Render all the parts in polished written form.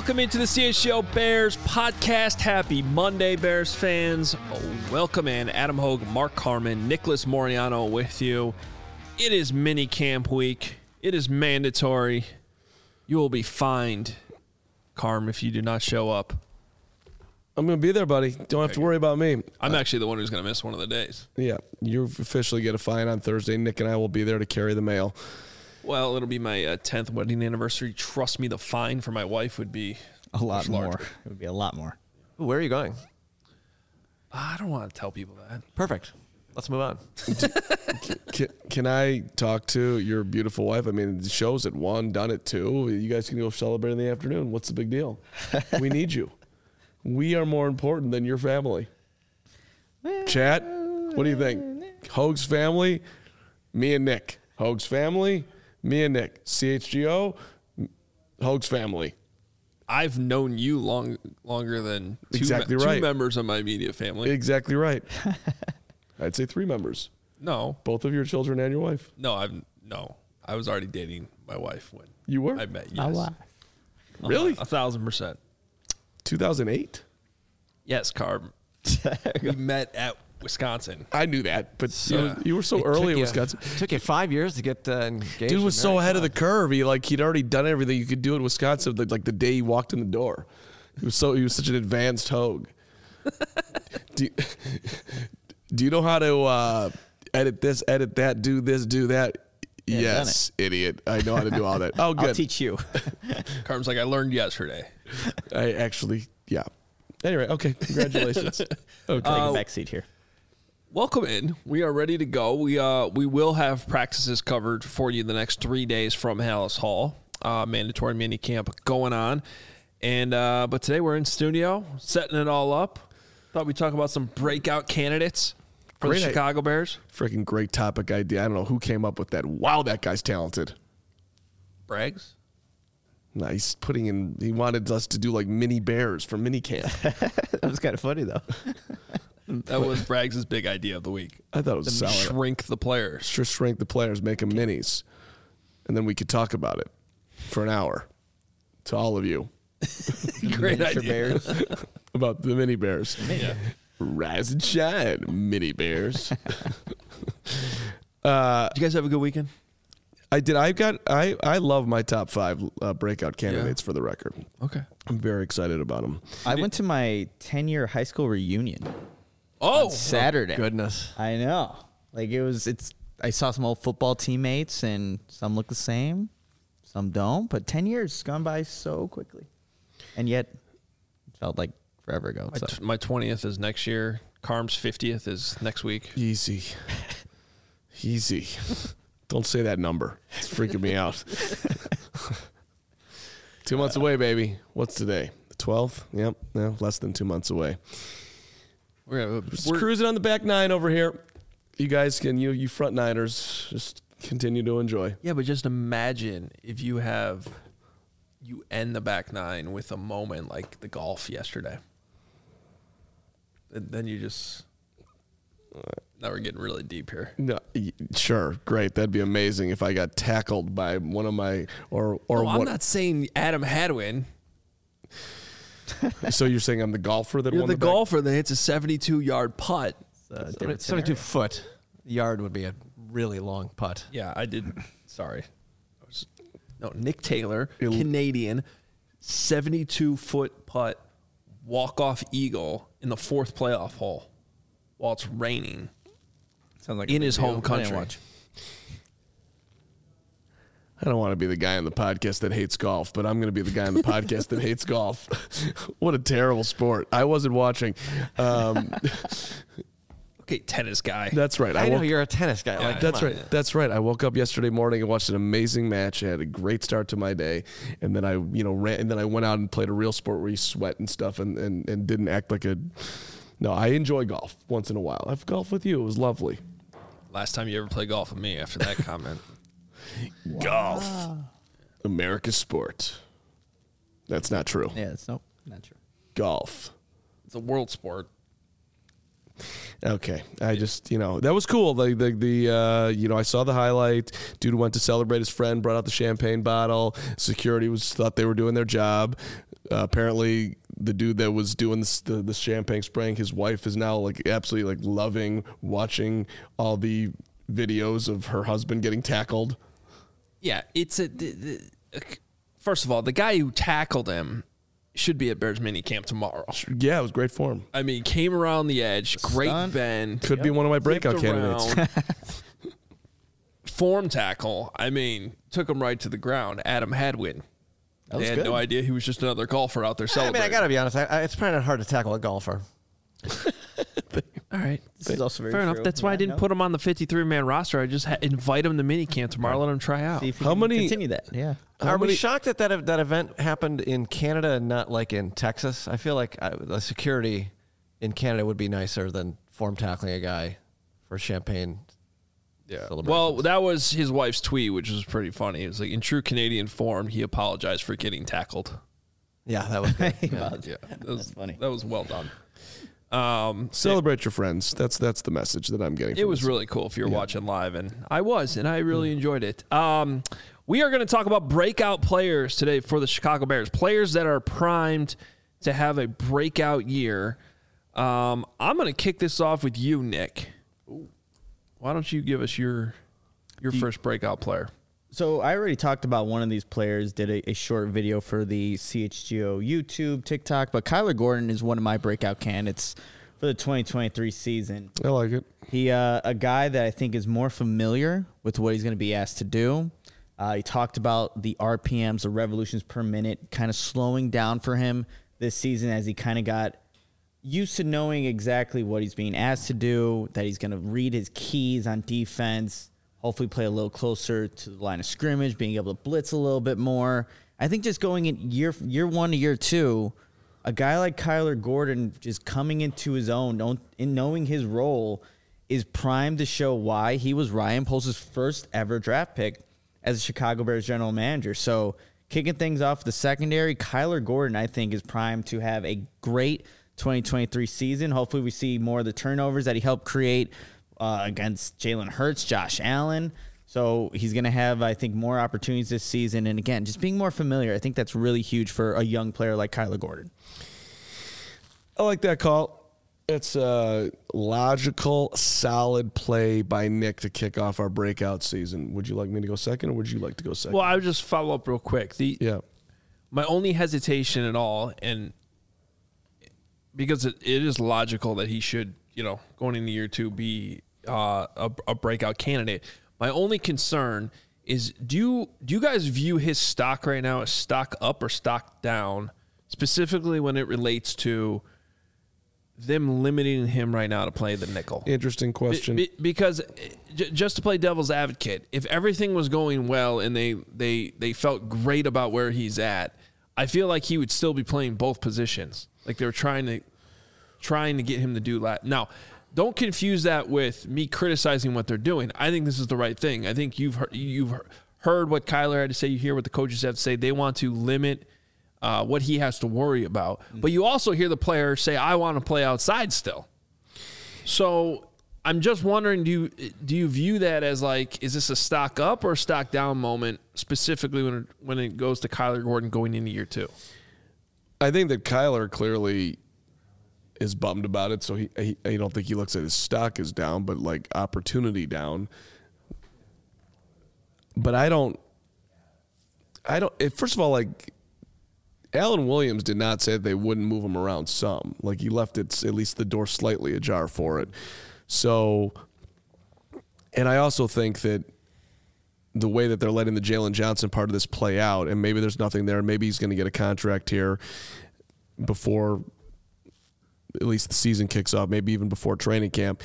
Welcome into the CHGO Bears podcast. Happy Monday, Bears fans. Welcome in. Adam Hogue, Mark Carman, Nicholas Moriano with you. It is mini camp week. It is mandatory. You will be fined, Carm, if you do not show up. I'm going to be there, buddy. Don't have to worry about me. I'm actually the one who's going to miss one of the days. Yeah, you officially get a fine on Thursday. Nick and I will be there to carry the mail. Well, it'll be my 10th wedding anniversary. Trust me, the fine for my wife would be a lot more. larger. It would be a lot more. Ooh, where are you going? I don't want to tell people that. Perfect. Let's move on. Can I talk to your beautiful wife? I mean, the show's at 1, done at 2. You guys can go celebrate in the afternoon. What's the big deal? We need you. We are more important than your family. Chat, what do you think? Hogue's family, me and Nick. Hogue's family, me and Nick. CHGO, Hogue's family. I've known you longer than Exactly two right. members of my immediate family. Exactly right. I'd say 3 members. No. Both of your children and your wife. No, I was already dating my wife when You were? I met. Yes. Really? 1,000%. 2008? Yes, Carb. We met at Wisconsin. I knew that, but Yeah. you were so early in Wisconsin. It took you 5 years to get engaged. Dude was and so married. ahead of the curve. He'd already done everything you could do in Wisconsin. Like the day he walked in the door, he was such an advanced Hogue. do you know how to edit this, edit that, do this, do that? Yeah, Yes, idiot. I know how to do all that. Oh, good. I'll teach you. Carb's like, I learned yesterday. I actually, yeah. Anyway, okay. Congratulations. Okay. Take a back seat here. Welcome in. We are ready to go. We will have practices covered for you the next 3 days from Hallis Hall. Mandatory mini camp going on. And but today we're in studio, setting it all up. Thought we'd talk about some breakout candidates for Great the Chicago Bears. Freaking great topic idea. I don't know who came up with that. Wow, that guy's talented. Braggs? No, he wanted us to do like mini bears for mini camp. That was kind of funny, though. That was Braggs' big idea of the week. I thought it was solid. Shrink the players. Just shrink the players, make them minis, and then we could talk about it for an hour to all of you Great Miniature idea. Bears. about the mini bears. Yeah. Rise and shine, mini bears. Did you guys have a good weekend? I did. I love my top 5 breakout candidates for the record. Okay. I'm very excited about them. I went to my 10-year high school reunion Oh, on Saturday. Goodness. I know. Like I saw some old football teammates, and some look the same, some don't. But 10 years gone by so quickly, and yet it felt like forever ago. So. my 20th is next year. Carm's 50th is next week. Easy. Don't say that number. It's freaking me out. 2 months away, baby. What's today? The 12th? Yep. No, less than 2 months away. We're Just cruising on the back 9 over here. You guys can, you front niners, just continue to enjoy. Yeah, but just imagine if you end the back 9 with a moment like the golf yesterday. And then you just... Now we're getting really deep here. No, sure, great. That'd be amazing if I got tackled by one of my or I'm what. not saying Adam Hadwin. So you're saying I'm the golfer that You're won the the back? golfer that hits a 72-yard putt. Different 72 scenario. foot yard would be a really long putt. Yeah, I did. Sorry. Nick Taylor, Canadian, 72-foot putt, walk-off eagle in the 4th playoff hole while it's raining. Sounds like In a big his deal. home I didn't country. watch. I don't want to be the guy on the podcast that hates golf, but I'm going to be the guy on the podcast that hates golf. What a terrible sport. I wasn't watching. Okay, tennis guy. That's right. I know woke- you're a tennis guy. Yeah, Like, That's come on. right. That's right. I woke up yesterday morning and watched an amazing match. I had a great start to my day, and then I ran, and then I went out and played a real sport where you sweat and stuff, and didn't act like a. No, I enjoy golf once in a while. I've golfed with you. It was lovely. Last time you ever played golf with me after that comment. Golf, America's sport. That's not true. Yeah, it's not true. Golf. It's a world sport. Okay, I just that was cool. I saw the highlight. Dude went to celebrate his friend, brought out the champagne bottle. Security thought they were doing their job. Apparently, the dude that was doing the champagne spraying, his wife is now like absolutely like loving watching all the videos of her husband getting tackled. Yeah, it's first of all, the guy who tackled him should be at Bears mini camp tomorrow. Yeah, it was great for him. I mean, came around the edge, great Stunt. bend. Could be one of my breakout flipped candidates. around, form tackle. I mean, took him right to the ground. Adam Hadwin. That They was had good. no idea he was just another golfer out there I mean, celebrating. I got to be honest. It's probably not hard to tackle a golfer. All right. This is also very Fair enough. true. That's why I Yeah, didn't no. put him on the 53-man roster. I just invite him to minicamp tomorrow, let him try out. See if you How can many- continue that? Yeah. Are we shocked that that event happened in Canada and not like in Texas? I feel like the security in Canada would be nicer than form tackling a guy for champagne. Yeah. celebrations. Well, that was his wife's tweet, which was pretty funny. It was like, in true Canadian form, he apologized for getting tackled. Yeah, that was good. Yeah. That was, That's funny. That was well done. Celebrate your friends. That's the message that I'm getting. It from was this. really cool if you're watching live, and I was, and I really enjoyed it. We are going to talk about breakout players today for the Chicago Bears, players that are primed to have a breakout year. I'm going to kick this off with you, Nick. Why don't you give us your first breakout player? So I already talked about one of these players, did a short video for the CHGO YouTube, TikTok, but Kyler Gordon is one of my breakout candidates for the 2023 season. I like it. He a guy that I think is more familiar with what he's going to be asked to do. He talked about the RPMs, the revolutions per minute, kind of slowing down for him this season as he kind of got used to knowing exactly what he's being asked to do, that he's going to read his keys on defense, hopefully play a little closer to the line of scrimmage, being able to blitz a little bit more. I think just going in year one to year two, a guy like Kyler Gordon just coming into his own, in knowing his role, is primed to show why he was Ryan Poles' first ever draft pick as a Chicago Bears general manager. So kicking things off the secondary, Kyler Gordon, I think, is primed to have a great 2023 season. Hopefully we see more of the turnovers that he helped create against Jalen Hurts, Josh Allen. So he's going to have, I think, more opportunities this season. And again, just being more familiar, I think that's really huge for a young player like Kyler Gordon. I like that call. It's a logical, solid play by Nick to kick off our breakout season. Would you like me to go second, or would you like to go second? Well, I would just follow up real quick. Yeah. My only hesitation at all, and because it is logical that he should, going into year two, be a breakout candidate. My only concern is, do you guys view his stock right now as stock up or stock down, specifically when it relates to them limiting him right now to play the nickel? Interesting question. Because just to play devil's advocate, if everything was going well and they felt great about where he's at, I feel like he would still be playing both positions. Like they were trying to get him to do that. Now, don't confuse that with me criticizing what they're doing. I think this is the right thing. I think you've heard what Kyler had to say. You hear what the coaches have to say. They want to limit what he has to worry about. But you also hear the player say, I want to play outside still. So I'm just wondering, do you view that as like, is this a stock up or a stock down moment, specifically when it goes to Kyler Gordon going into year two? I think that Kyler clearly is bummed about it, so I don't think he looks at his stock as down, but like opportunity down. But I don't. First of all, like, Alan Williams did not say that they wouldn't move him around some. Like, he left it at least the door slightly ajar for it. So, and I also think that the way that they're letting the Jalen Johnson part of this play out, and maybe there's nothing there, maybe he's going to get a contract here before at least the season kicks off, maybe even before training camp.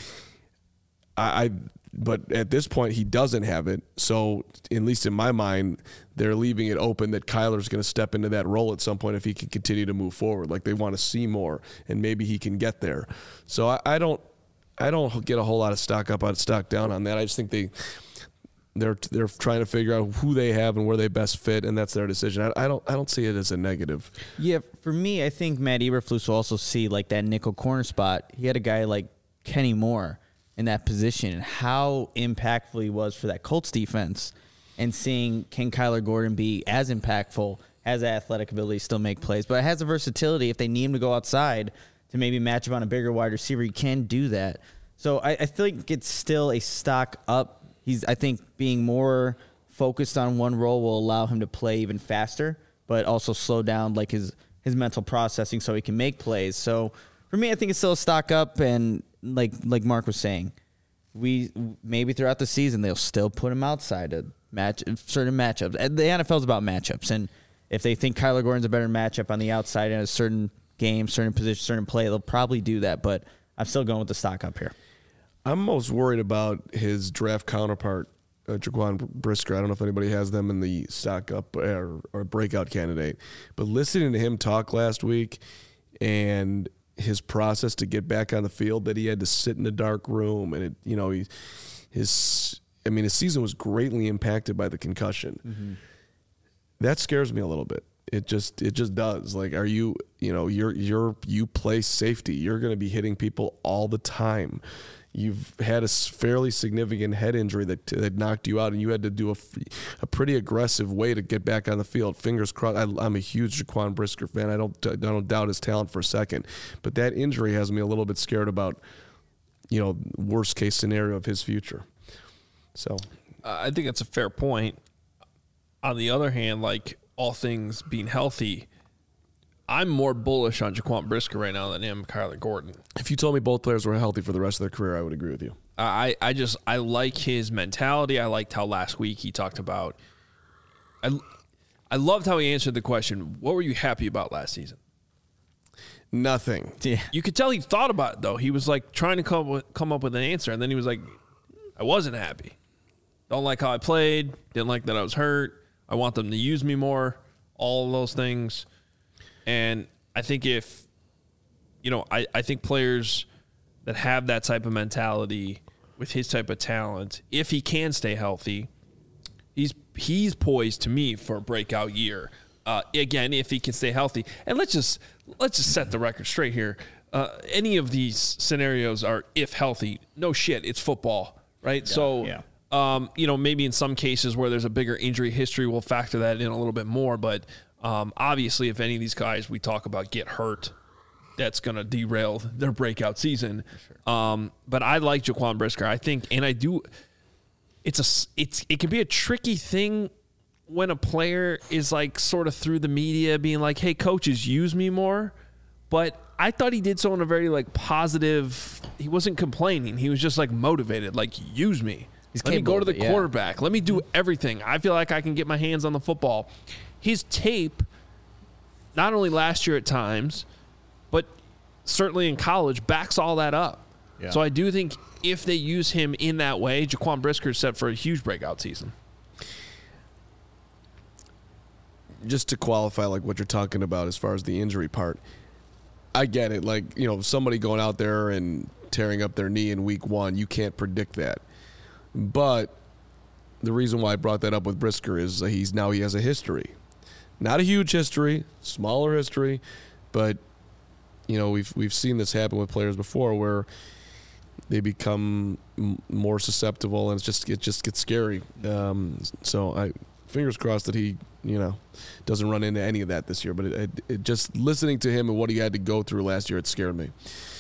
But at this point, he doesn't have it. So, at least in my mind, they're leaving it open that Kyler's going to step into that role at some point if he can continue to move forward. Like, they want to see more, and maybe he can get there. So, I don't get a whole lot of stock up, out of stock down on that. I just think they're trying to figure out who they have and where they best fit, and that's their decision. I don't see it as a negative. Yeah, for me, I think Matt Eberflus will also see like that nickel corner spot. He had a guy like Kenny Moore in that position, and how impactful he was for that Colts defense, and seeing can Kyler Gordon be as impactful has the athletic ability to still make plays, but it has the versatility. If they need him to go outside to maybe match up on a bigger wide receiver, he can do that. So I think it's still a stock up. I think being more focused on one role will allow him to play even faster, but also slow down like his mental processing so he can make plays. So for me, I think it's still a stock up, and like Mark was saying, we maybe throughout the season they'll still put him outside to match certain matchups. The NFL is about matchups, and if they think Kyler Gordon's a better matchup on the outside in a certain game, certain position, certain play, they'll probably do that. But I'm still going with the stock up here. I'm most worried about his draft counterpart, Jaquan Brisker. I don't know if anybody has them in the stock up or breakout candidate, but listening to him talk last week and his process to get back on the field, that he had to sit in a dark room, and his season was greatly impacted by the concussion. Mm-hmm. That scares me a little bit. It just does. Like, you play safety. You're going to be hitting people all the time. You've had a fairly significant head injury that knocked you out, and you had to do a pretty aggressive way to get back on the field. Fingers crossed. I'm a huge Jaquan Brisker fan. I don't doubt his talent for a second, but that injury has me a little bit scared about, worst case scenario of his future. So, I think that's a fair point. On the other hand, like all things being healthy, I'm more bullish on Jaquan Brisker right now than I am Kyler Gordon. If you told me both players were healthy for the rest of their career, I would agree with you. I like his mentality. I liked how last week he talked about. I loved how he answered the question, what were you happy about last season? Nothing. Yeah. You could tell he thought about it, though. He was like trying to come up with an answer, and then he was like, I wasn't happy. Don't like how I played. Didn't like that I was hurt. I want them to use me more. All of those things. And I think I think players that have that type of mentality with his type of talent, if he can stay healthy, he's poised to me for a breakout year. Again, if he can stay healthy. And let's just set the record straight here. Any of these scenarios are if healthy. No shit, it's football, right? Yeah, so, yeah. Maybe in some cases where there's a bigger injury history, we'll factor that in a little bit more. But obviously, if any of these guys we talk about get hurt, that's going to derail their breakout season. Sure. But I like Jaquan Brisker. I think, and I do. It can be a tricky thing when a player is like sort of through the media being like, "Hey, coaches, use me more." But I thought he did so in a very like positive. He wasn't complaining. He was just like motivated, like use me. Let me go to the quarterback. Let me do everything. I feel like I can get my hands on the football. His tape, not only last year at times, but certainly in college, backs all that up. Yeah. So I do think if they use him in that way, Jaquan Brisker is set for a huge breakout season. Just to qualify like what you're talking about as far as the injury part, I get it. Like, somebody going out there and tearing up their knee in week 1, you can't predict that. But the reason why I brought that up with Brisker is he has a history. Not a huge history, smaller history, but we've seen this happen with players before where they become more susceptible, and it just gets scary. So I fingers crossed that he doesn't run into any of that this year. But it just listening to him and what he had to go through last year, it scared me.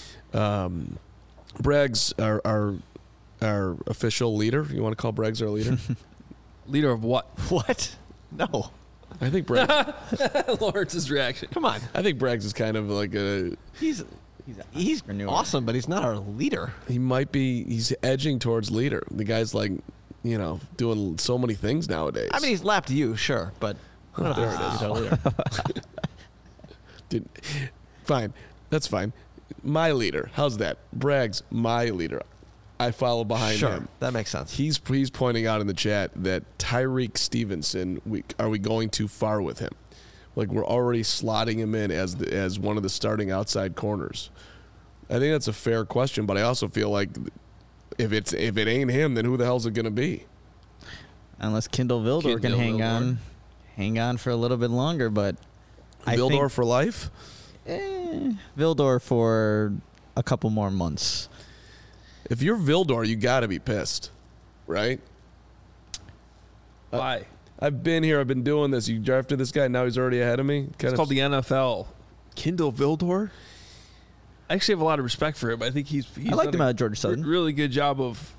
Braggs, our official leader. You want to call Braggs our leader? Leader of what? What? No. I think Braggs. Lawrence's reaction. Come on. I think Braggs is kind of like He's awesome, but he's not our leader. He might be. He's edging towards leader. The guy's like, doing so many things nowadays. I mean, he's lapped you, sure, but there it is. Dude, fine. That's fine. My leader. How's that? Braggs, my leader. I follow behind him. That makes sense. He's pointing out in the chat that Tyreek Stevenson, are we going too far with him? Like, we're already slotting him in as one of the starting outside corners. I think that's a fair question, but I also feel like if it ain't him, then who the hell's it going to be? Unless Kindle Vildor can hang on for a little bit longer, but Vildor for life? Vildor for a couple more months. If you're Vildor, you got to be pissed, right? Why? I've been here. I've been doing this. You drafted this guy. Now he's already ahead of me. It's called the NFL. Kindle Vildor. I actually have a lot of respect for him. I think he's I liked done him a out of Georgia Southern. really good job of,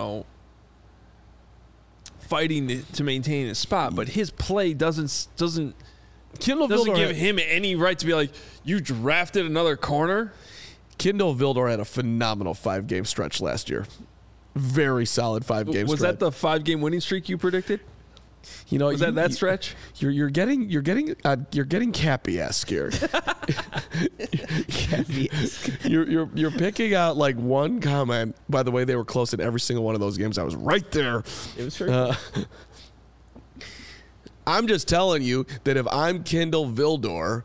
fighting to maintain his spot. But his play doesn't Kindle doesn't Vildor give him any right to be like, you drafted another corner. Kindle Vildor had a phenomenal 5-game stretch last year. Very solid 5-game Was stretch. that the 5-game winning streak you predicted? Was that stretch? You're getting Cappy-esque here. You're picking out like one comment. By the way, they were close in every single one of those games. I was right there. It was true. I'm just telling you that if I'm Kindle Vildor,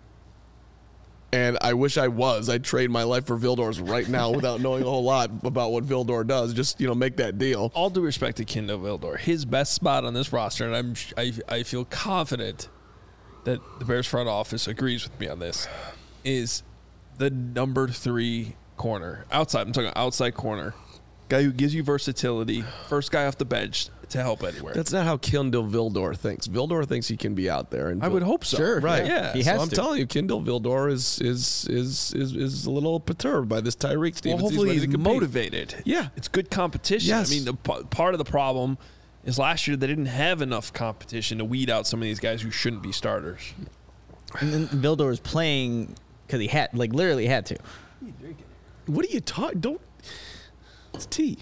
and I wish I was, I'd trade my life for Vildor's right now without knowing a whole lot about what Vildor does. Just make that deal. All due respect to Kindle Vildor, his best spot on this roster, and I feel confident that the Bears front office agrees with me on this, is the number 3 corner. Outside, I'm talking outside corner. Guy who gives you versatility, first guy off the bench to help anywhere. That's not how Kindle Vildor thinks. Vildor thinks he can be out there, and I would hope so. Sure. right. Yeah. He So has I'm to. telling you, Kindle Vildor is a little perturbed by this Tyreek Well, Stevens. hopefully ready he's to compete. motivated. Yeah. It's good competition. Yes. I mean, part of the problem is last year they didn't have enough competition to weed out some of these guys who shouldn't be starters. And then Vildor was playing because he had, literally had to. What are you talking? Don't. It's tea.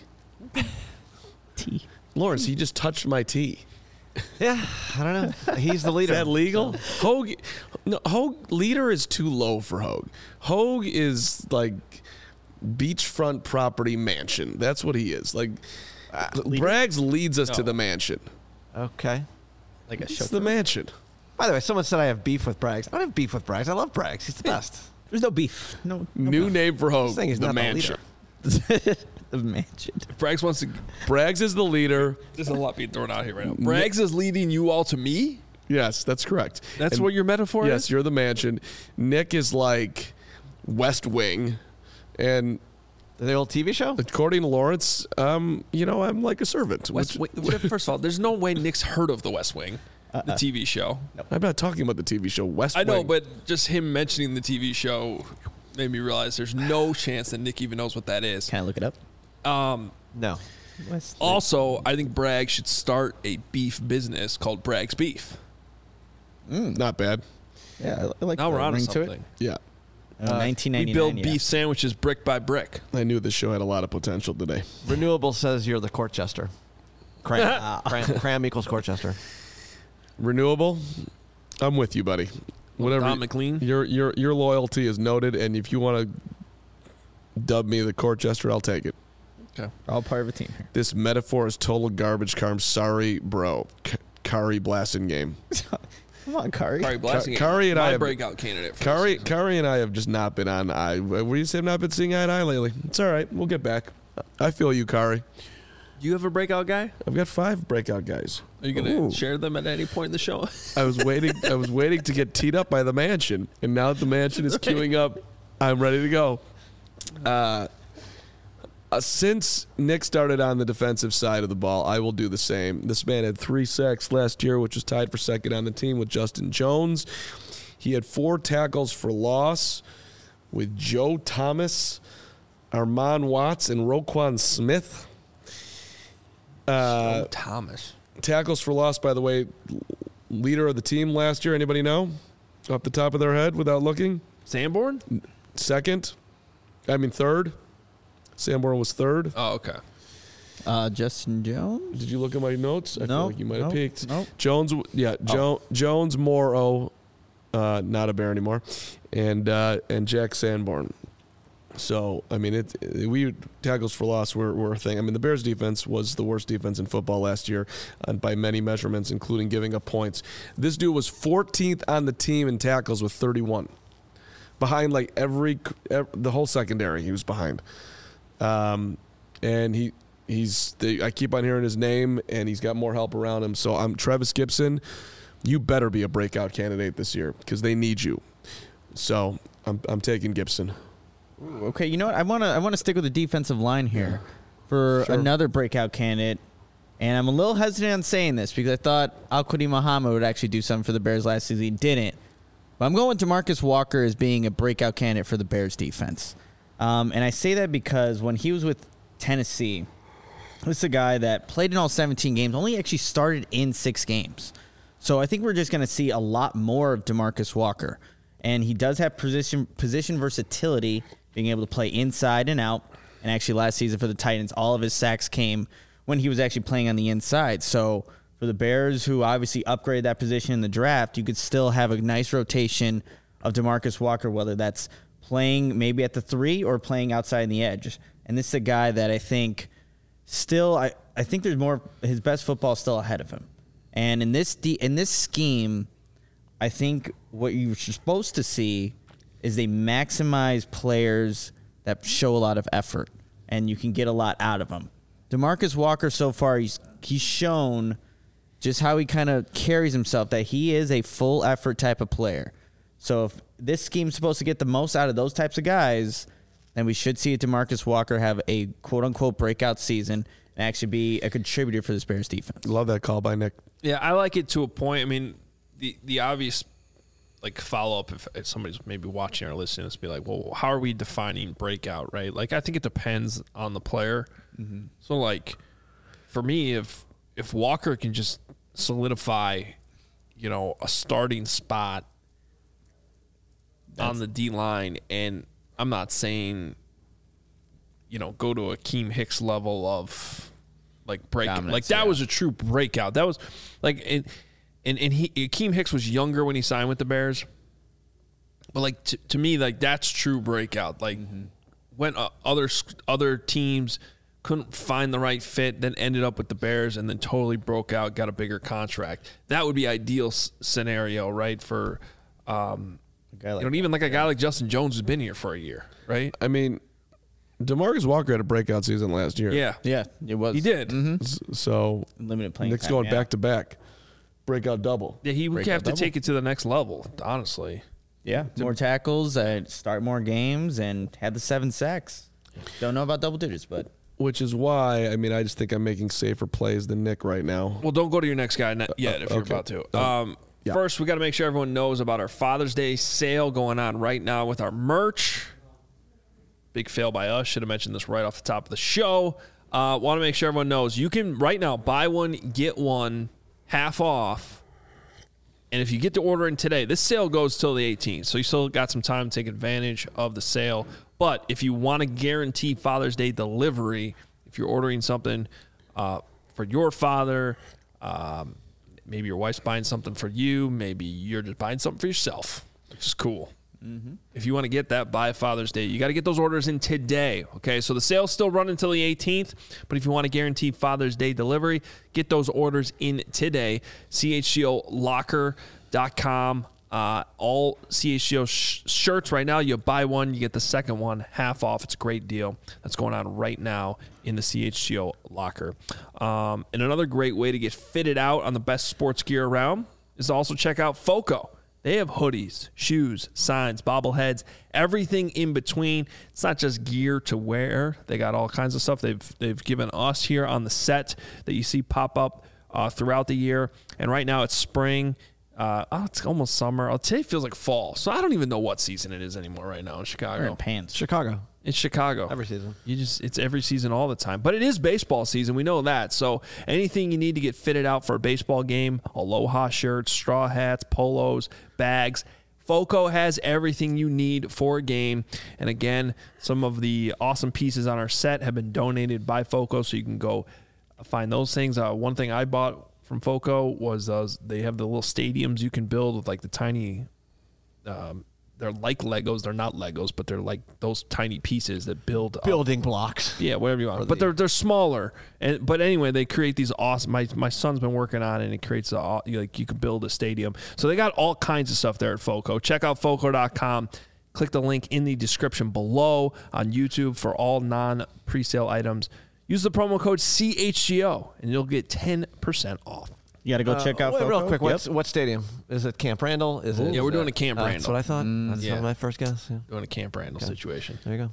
T. Lawrence, he just touched my tea. Yeah, I don't know. He's the leader. Is that legal? Hogue leader is too low for Hogue. Hogue is like beachfront property mansion. That's what he is. Like Braggs leads us to the mansion. Okay. Like a It's chauffeur. the mansion. By the way, someone said I have beef with Braggs. I don't have beef with Braggs. I love Braggs. He's the best. There's no beef. No. New name for Hogue. Saying he's The not the mansion. The mansion. If Braggs wants to, Braggs is the leader. there's a lot being thrown out here right now. Braggs is leading you all to me? Yes, that's correct. That's And- what your metaphor Yes, is? you're the mansion. Nick is like West Wing, and The old TV show? according to Lawrence, I'm like a servant. West Wing. First of all, there's no way Nick's heard of the West Wing, the TV show. I'm not talking about the TV show West I Wing. know, but just him mentioning the TV show made me realize there's no chance that Nick even knows what that is. Can I look it up? No. Also, I think Bragg should start a beef business called Bragg's Beef. Not bad. Yeah, I like Now the we're on to ring to it. something. Yeah, 1999. We build yeah. beef sandwiches brick by brick. I knew this show had a lot of potential today. Renewable says you're the court jester. Cram equals court jester. Renewable, I'm with you, buddy. Whatever. Don McLean. Your loyalty is noted, and if you want to dub me the court jester, I'll take it. Okay. All part of a team here. This metaphor is total garbage, Carm. Sorry, bro. Kari Blasting game. Come on, Kari. Kari Blasting. Kari and my I have- breakout candidate. For Kari, this season. Kari and I have just not been on eye. What do you say? I've not been seeing eye to eye lately. It's all right. We'll get back. I feel you, Kari. You have a breakout guy? I've got 5 breakout guys. Are you going to share them at any point in the show? I was waiting to get teed up by the mansion, and now that the mansion is queuing up, I'm ready to go. Since Nick started on the defensive side of the ball, I will do the same. This man had 3 sacks last year, which was tied for second on the team with Justin Jones. He had 4 tackles for loss with Joe Thomas, Armand Watts, and Roquan Smith. Thomas. Tackles for loss, by the way, leader of the team last year. Anybody know? Off the top of their head without looking? Sanborn? Third. Sanborn was third. Oh, okay. Justin Jones. Did you look at my notes? I feel No, like you might have no, peeked. no. Jones, Jones, Morrow, not a Bear anymore, and Jack Sanborn. So, we tackles for loss were a thing. The Bears defense was the worst defense in football last year by many measurements, including giving up points. This dude was 14th on the team in tackles with 31. Behind the whole secondary, he was behind. And I keep on hearing his name, and he's got more help around him. So I'm Travis Gibson. You better be a breakout candidate this year because they need you. So I'm taking Gibson. Ooh, okay, you know what? I want to stick with the defensive line here for another breakout candidate. And I'm a little hesitant on saying this because I thought Al-Quadri Muhammad would actually do something for the Bears last season. He didn't. But I'm going to DeMarcus Walker as being a breakout candidate for the Bears defense. And I say that because when he was with Tennessee, this is a guy that played in all 17 games, only actually started in 6 games. So I think we're just going to see a lot more of DeMarcus Walker. And he does have position versatility, being able to play inside and out. And actually last season for the Titans, all of his sacks came when he was actually playing on the inside. So for the Bears, who obviously upgraded that position in the draft, you could still have a nice rotation of DeMarcus Walker, whether that's playing maybe at the 3 or playing outside in the edge. And this is a guy that I think still, I think there's more, his best football is still ahead of him. And in this scheme, I think what you're supposed to see is they maximize players that show a lot of effort, and you can get a lot out of them. DeMarcus Walker, so far, he's shown just how he kind of carries himself, that he is a full effort type of player. So if this scheme's supposed to get the most out of those types of guys, then we should see DeMarcus Walker have a quote-unquote breakout season and actually be a contributor for this Bears defense. Love that call by Nick. Yeah, I like it to a point. I mean, the obvious follow-up, if somebody's maybe watching or listening, is be like, well, how are we defining breakout, right? Like, I think it depends on the player. Mm-hmm. So, like, for me, if Walker can just solidify, a starting spot on the D-line, and I'm not saying, go to Akeem Hicks level of, breakout. Dominance, that was a true breakout. That was, Akeem Hicks was younger when he signed with the Bears. But, to me, that's true breakout. When other teams couldn't find the right fit, then ended up with the Bears and then totally broke out, got a bigger contract. That would be ideal scenario, right, for even a guy like Justin Jones who's been here for a year, right? I mean, DeMarcus Walker had a breakout season last year. Yeah, it was. He did. Mm-hmm. So limited playing Nick's time, going back to back. Breakout double. Yeah, he would have to take it to the next level, honestly. Yeah, more tackles, start more games, and had the 7 sacks. Don't know about double digits, but. Which is why, I just think I'm making safer plays than Nick right now. Well, don't go to your next guy yet if you're about to. Yeah. First, we got to make sure everyone knows about our Father's Day sale going on right now with our merch. Big fail by us. Should have mentioned this right off the top of the show. Want to make sure everyone knows you can right now buy one, get one half off. And if you get to ordering today, this sale goes till the 18th. So you still got some time to take advantage of the sale. But if you want to guarantee Father's Day delivery, if you're ordering something for your father, maybe your wife's buying something for you, maybe you're just buying something for yourself, which is cool. Mm-hmm. If you want to get that by Father's Day, you got to get those orders in today, okay? So the sale's still running until the 18th, but if you want to guarantee Father's Day delivery, get those orders in today. CHGOLocker.com. All CHGO shirts right now, you buy one, you get the second one half off. It's a great deal that's going on right now in the CHGO locker. And another great way to get fitted out on the best sports gear around is to also check out FOCO. They have hoodies, shoes, signs, bobbleheads, everything in between. It's not just gear to wear. They got all kinds of stuff they've given us here on the set that you see pop up throughout the year. And right now it's spring. It's almost summer. Today feels like fall. So I don't even know what season it is anymore right now in Chicago. We're in pants. Chicago. It's Chicago. Every season. It's every season all the time. But it is baseball season. We know that. So anything you need to get fitted out for a baseball game, Aloha shirts, straw hats, polos, bags, FOCO has everything you need for a game. And again, some of the awesome pieces on our set have been donated by FOCO, so you can go find those things. One thing I bought from FOCO was they have the little stadiums you can build with the tiny they're like Legos. They're not Legos, but they're like those tiny pieces that build building blocks. Yeah, whatever you want. But they're smaller. But anyway, they create these awesome. My son's been working on it, and it creates you can build a stadium. So they got all kinds of stuff there at FOCO. Check out FOCO.com. Click the link in the description below on YouTube for all non-presale items. Use the promo code CHGO, and you'll get 10% off. You got to go check out Wait, FOCO. real quick, Yep. what stadium? Is it Camp Randall? Yeah, we're doing a Camp Randall. That's what I thought. That's Yeah. my first guess. Yeah. Doing a Camp Randall situation. There you go. Yeah,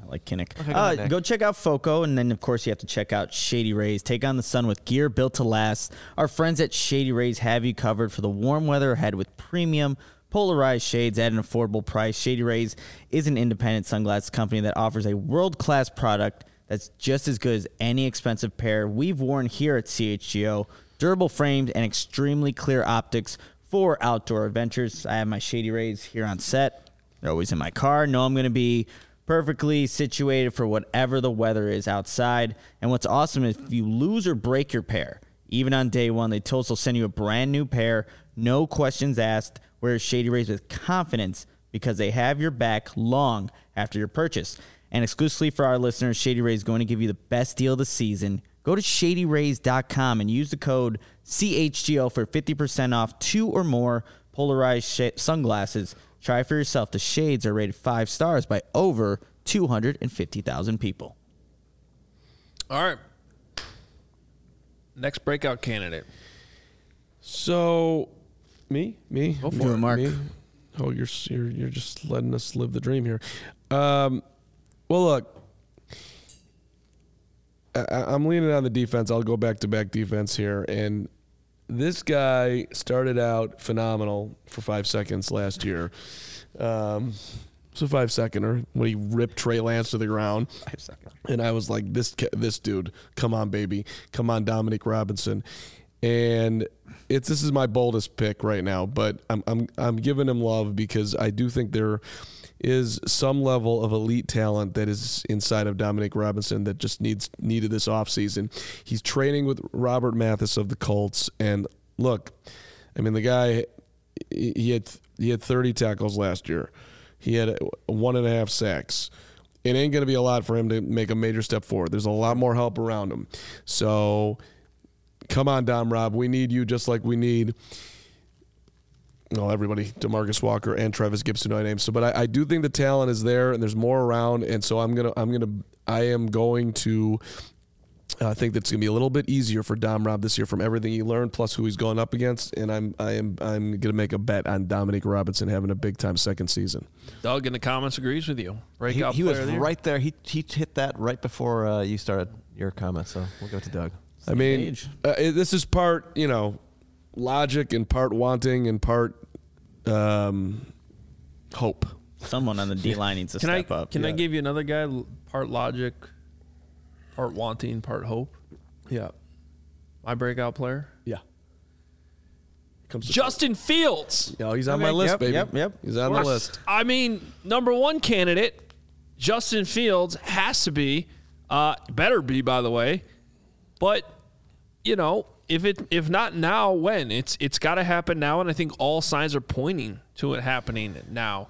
like Kinnick. Okay, go ahead, Nick. Go check out FOCO, and then, of course, you have to check out Shady Rays. Take on the sun with gear built to last. Our friends at Shady Rays have you covered for the warm weather ahead with premium polarized shades at an affordable price. Shady Rays is an independent sunglasses company that offers a world-class product that's just as good as any expensive pair we've worn here at CHGO. Durable framed and extremely clear optics for outdoor adventures. I have my Shady Rays here on set. They're always in my car. Know I'm going to be perfectly situated for whatever the weather is outside. And what's awesome is if you lose or break your pair, even on day one, they told us they'll send you a brand new pair, no questions asked. Wear Shady Rays with confidence because they have your back long after your purchase. And exclusively for our listeners, Shady Rays is going to give you the best deal of the season. Go to shadyrays.com and use the code CHGO for 50% off 2 or more polarized sunglasses. Try for yourself. The shades are rated 5 stars by over 250,000 people. All right. Next breakout candidate. So, me, Go for Do it, it. Mark. me. Oh, you're just letting us live the dream here. Well, look, I'm leaning on the defense. I'll go back-to-back defense here. And this guy started out phenomenal for 5 seconds last year. It's a 5-seconder when he ripped Trey Lance to the ground. 5 seconds. And I was like, this dude, come on, baby. Come on, Dominic Robinson. And this is my boldest pick right now, but I'm giving him love because I do think there is some level of elite talent that is inside of Dominic Robinson that just needed this offseason. He's training with Robert Mathis of the Colts, and look, I mean, the guy, he had 30 tackles last year. He had 1.5 sacks. It ain't going to be a lot for him to make a major step forward. There's a lot more help around him. So come on, Dom Rob. We need you just like we need everybody, DeMarcus Walker and Travis Gibson, I named. So, but I do think the talent is there, and there's more around, and so I am going to. I think that's going to be a little bit easier for Dom Rob this year from everything he learned, plus who he's going up against, and I'm going to make a bet on Dominic Robinson having a big time second season. Doug in the comments agrees with you. Breakout He was player of the year. right there. He hit that right before you started your comment, so we'll go to Doug. I mean, this is part, logic and part wanting and part hope. Someone on the D-line needs to step up. Can I give you another guy? Part logic, part wanting, part hope. Yeah. My breakout player, Yeah. Comes to Justin Fields. he's on my list, baby. Yep. He's on the list. I mean, number one candidate, Justin Fields has to be, better be, by the way. But if not now, when? It's got to happen now, and I think all signs are pointing to it happening now.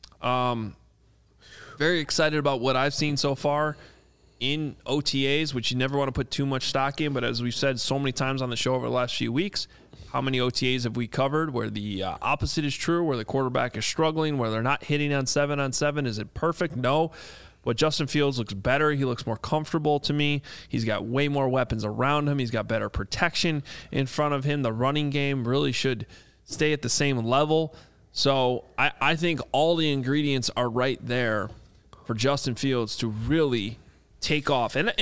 Very excited about what I've seen so far in OTAs, which you never want to put too much stock in, but as we've said so many times on the show over the last few weeks, how many OTAs have we covered where the opposite is true, where the quarterback is struggling, where they're not hitting on 7-on-7? Is it perfect? No. But Justin Fields looks better. He looks more comfortable to me. He's got way more weapons around him. He's got better protection in front of him. The running game really should stay at the same level. So I think all the ingredients are right there for Justin Fields to really take off. And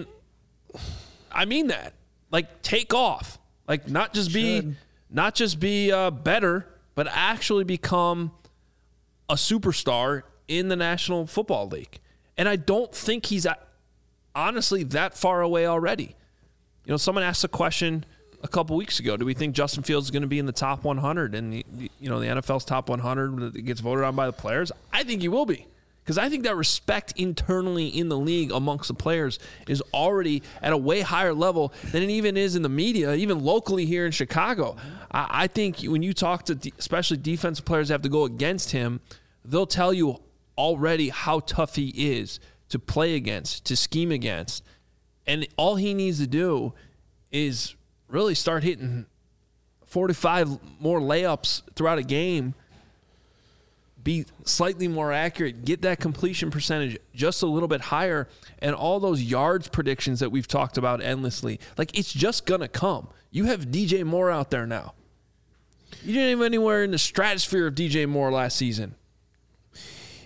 I mean that. Like, take off. Like, not just be better, but actually become a superstar in the National Football League. And I don't think he's honestly that far away already. Someone asked a question a couple weeks ago. Do we think Justin Fields is going to be in the top 100 and the NFL's top 100 that gets voted on by the players? I think he will be. Because I think that respect internally in the league amongst the players is already at a way higher level than it even is in the media, even locally here in Chicago. I think when you talk to especially defensive players that have to go against him, they'll tell you already how tough he is to play against, to scheme against. And all he needs to do is really start hitting 45 more layups throughout a game, be slightly more accurate, get that completion percentage just a little bit higher, and all those yards predictions that we've talked about endlessly. Like, it's just going to come. You have DJ Moore out there now. You didn't have anywhere in the stratosphere of DJ Moore last season.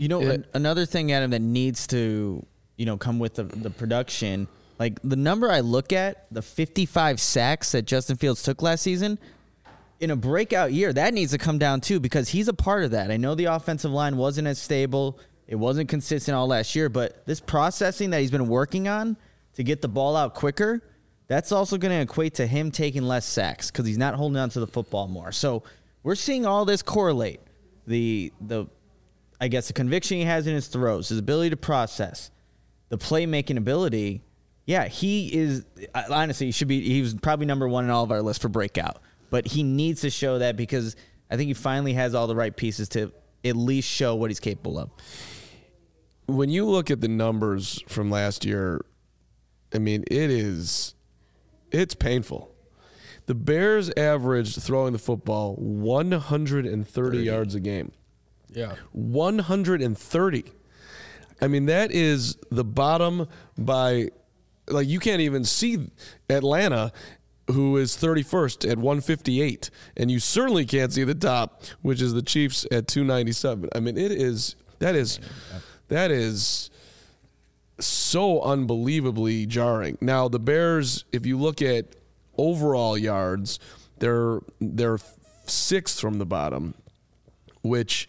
You know, another thing, Adam, that needs to, come with the production, like the number I look at, the 55 sacks that Justin Fields took last season, in a breakout year, that needs to come down too, because he's a part of that. I know the offensive line wasn't as stable. It wasn't consistent all last year, but this processing that he's been working on to get the ball out quicker, that's also going to equate to him taking less sacks because he's not holding on to the football more. So we're seeing all this correlate. The conviction he has in his throws, his ability to process, the playmaking ability. Yeah, he is honestly he was probably number one in all of our lists for breakout. But he needs to show that because I think he finally has all the right pieces to at least show what he's capable of. When you look at the numbers from last year, I mean, it's painful. The Bears averaged throwing the football 130 yards a game. Yeah. 130. I mean, that is the bottom by, like, you can't even see Atlanta, who is 31st at 158. And you certainly can't see the top, which is the Chiefs at 297. I mean, that is so unbelievably jarring. Now, the Bears, if you look at overall yards, they're sixth from the bottom, which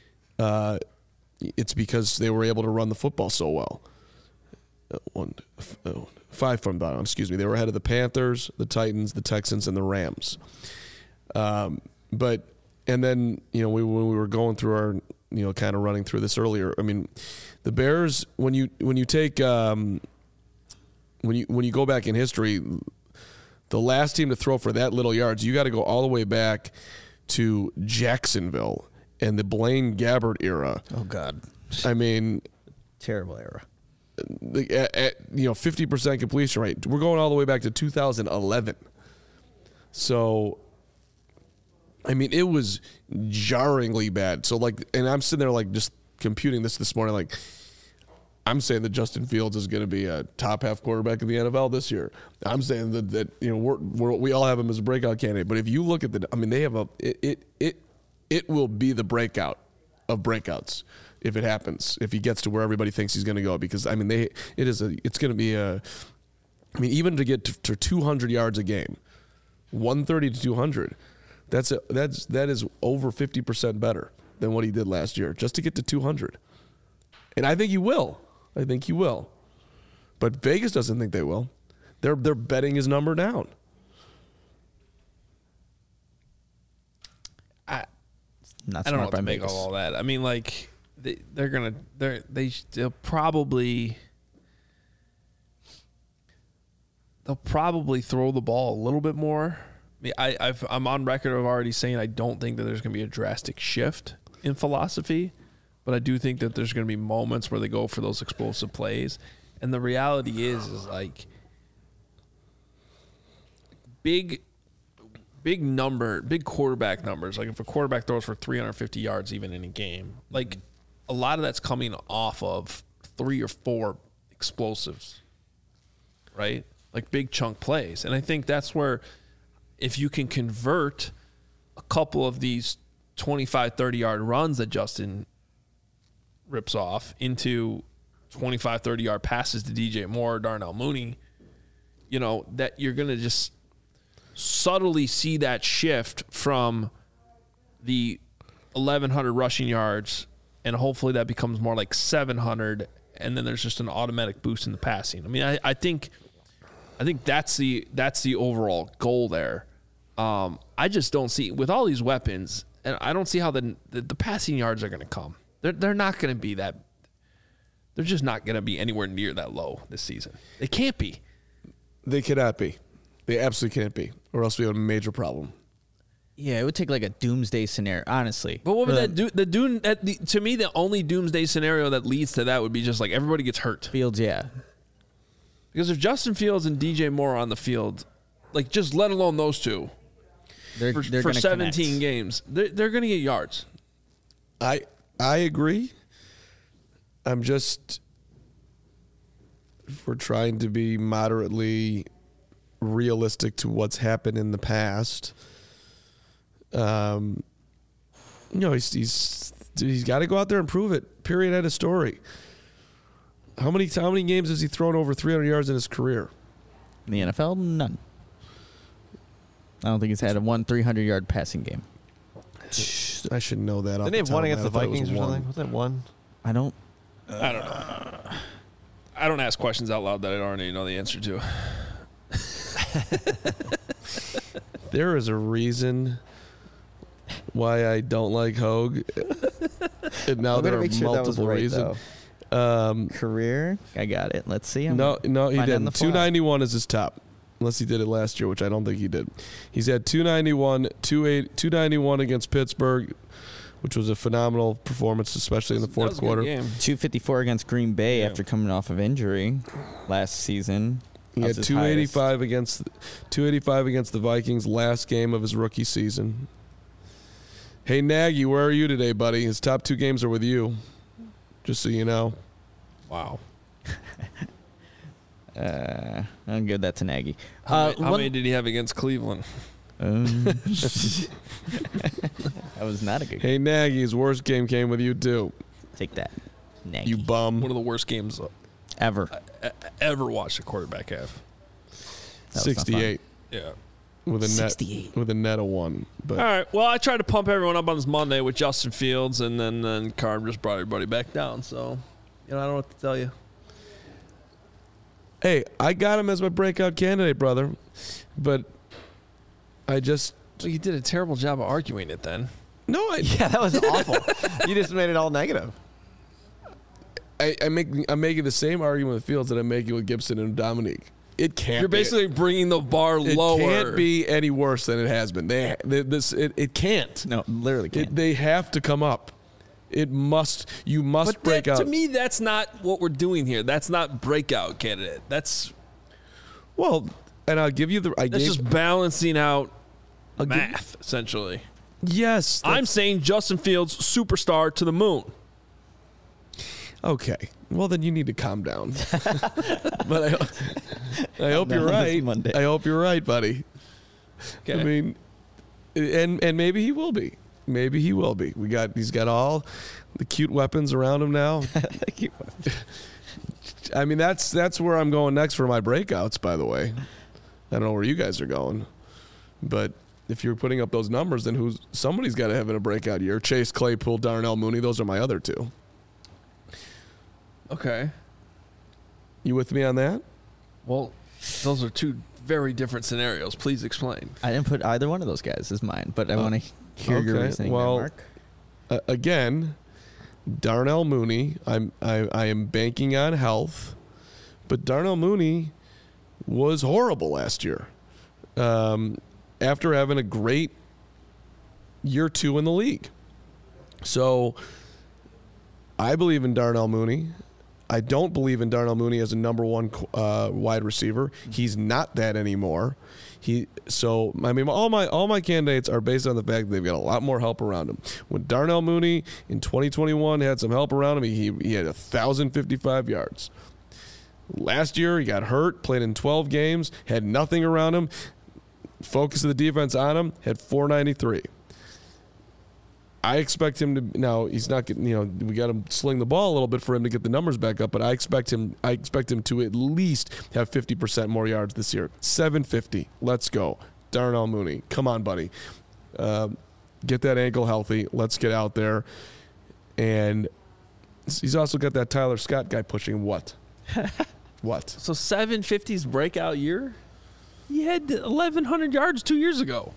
it's because they were able to run the football so well. 5 from the bottom, excuse me. They were ahead of the Panthers, the Titans, the Texans, and the Rams. And then, when we were going through our, kind of running through this earlier, I mean, the Bears, when you take when you go back in history, the last team to throw for that little yards, you got to go all the way back to Jacksonville and the Blaine Gabbert era. Oh God. I mean, terrible era. 50% completion rate. We're going all the way back to 2011. So, I mean, it was jarringly bad. So, and I'm sitting there, just computing this morning, I'm saying that Justin Fields is going to be a top half quarterback in the NFL this year. I'm saying that we all have him as a breakout candidate. But if you look at they have it will be the breakout of breakouts if it happens, if he gets to where everybody thinks he's going to go, because it's going to be even to get to 200 yards a game, 130 to 200, that is over 50% better than what he did last year, just to get to 200. And I think he will. But Vegas doesn't think they will. They're betting his number down. I don't know what to make of all that. I mean, they'll probably throw the ball a little bit more. I mean, I'm on record of already saying I don't think that there's going to be a drastic shift in philosophy, but I do think that there's going to be moments where they go for those explosive plays. And the reality is big quarterback numbers. Like if a quarterback throws for 350 yards even in a game, a lot of that's coming off of 3 or 4 explosives, right? Like big chunk plays. And I think that's where if you can convert a couple of these 25, 30-yard runs that Justin rips off into 25, 30-yard passes to DJ Moore or Darnell Mooney, that you're going to just subtly see that shift from the 1,100 rushing yards, and hopefully that becomes more like 700, and then there's just an automatic boost in the passing. I mean, I think that's the overall goal there. I just don't see, with all these weapons, and I don't see how the passing yards are going to come. They're not going to be that. They're just not going to be anywhere near that low this season. They can't be. They cannot be. They absolutely can't be, or else we have a major problem. Yeah, it would take a doomsday scenario, honestly. But what would that do? To me, the only doomsday scenario that leads to that would be just everybody gets hurt. Fields, yeah. Because if Justin Fields and DJ Moore are on the field, just let alone those two, they're for 17 connect. games, they're going to get yards. I agree. I'm just, if we're trying to be moderately realistic to what's happened in the past, he's Dude, he's got to go out there and prove it. Period. End of story. How many games has he thrown over 300 yards in his career? In the NFL, none. I don't think he's had a 300-yard passing game. I should know that. Didn't he have one against the Vikings or something? Was that one? I don't I don't know. I don't ask questions out loud that I already know the answer to. There is a reason why I don't like Hogue. And now there are multiple reasons. Career, I got it. Let's see. No, he didn't. 291 is his top, unless he did it last year, which I don't think he did. He's had 291, 291 against Pittsburgh, which was a phenomenal performance, especially in the fourth quarter. 254 against Green Bay after coming off of injury last season. He had 285 against the Vikings last game of his rookie season. Hey Nagy, where are you today, buddy? His top 2 games are with you. Just so you know. Wow. I'll give that to Nagy. How many did he have against Cleveland? That was not a good game. Hey Nagy, his worst game came with you too. Take that, Nagy. You bum. One of the worst games Ever watched a quarterback have. 68. Yeah. With a 68. Net, of 1. But All right. Well, I tried to pump everyone up on this Monday with Justin Fields, and then Carm just brought everybody back down. So, I don't know what to tell you. hey, I got him as my breakout candidate, brother. But I just So you did a terrible job of arguing it then. Yeah, that was awful. You just made it all negative. I'm making the same argument with Fields that I'm making with Gibson and Dominique. It can't. You're basically bringing the bar lower. It can't be any worse than it has been. It can't. No, literally can't. They have to come up. It must. You must break out. To me, that's not what we're doing here. That's not breakout candidate. That's and I'll give you that's just balancing out math, essentially. Yes. I'm saying Justin Fields, superstar to the moon. Okay. Well, then you need to calm down. But I hope you're right. I hope you're right, buddy. Okay. I mean, and maybe he will be. Maybe he will be. He's got all the cute weapons around him now. I mean, that's where I'm going next for my breakouts, by the way. I don't know where you guys are going. But if you're putting up those numbers, then somebody's got to have a breakout year. Chase Claypool, Darnell Mooney, those are my other 2. Okay. You with me on that? Well, those are 2 very different scenarios. Please explain. I didn't put either one of those guys as mine, but I want to hear your reasoning there, Mark. Again, Darnell Mooney, I am banking on health, but Darnell Mooney was horrible last year. After having a great year 2 in the league. So I believe in Darnell Mooney. I don't believe in Darnell Mooney as a number 1 wide receiver. He's not that anymore. All my candidates are based on the fact that they've got a lot more help around him. When Darnell Mooney in 2021 had some help around him, he had 1,055 yards. Last year he got hurt, played in 12 games, had nothing around him. Focus of the defense on him, had 493. I expect him to now. He's not getting. We got to sling the ball a little bit for him to get the numbers back up. But I expect him to at least have 50% more yards this year. 750. Let's go, Darnell Mooney. Come on, buddy. Get that ankle healthy. Let's get out there. And he's also got that Tyler Scott guy pushing what? What? So 750's breakout year? He had 1,100 yards 2 years ago.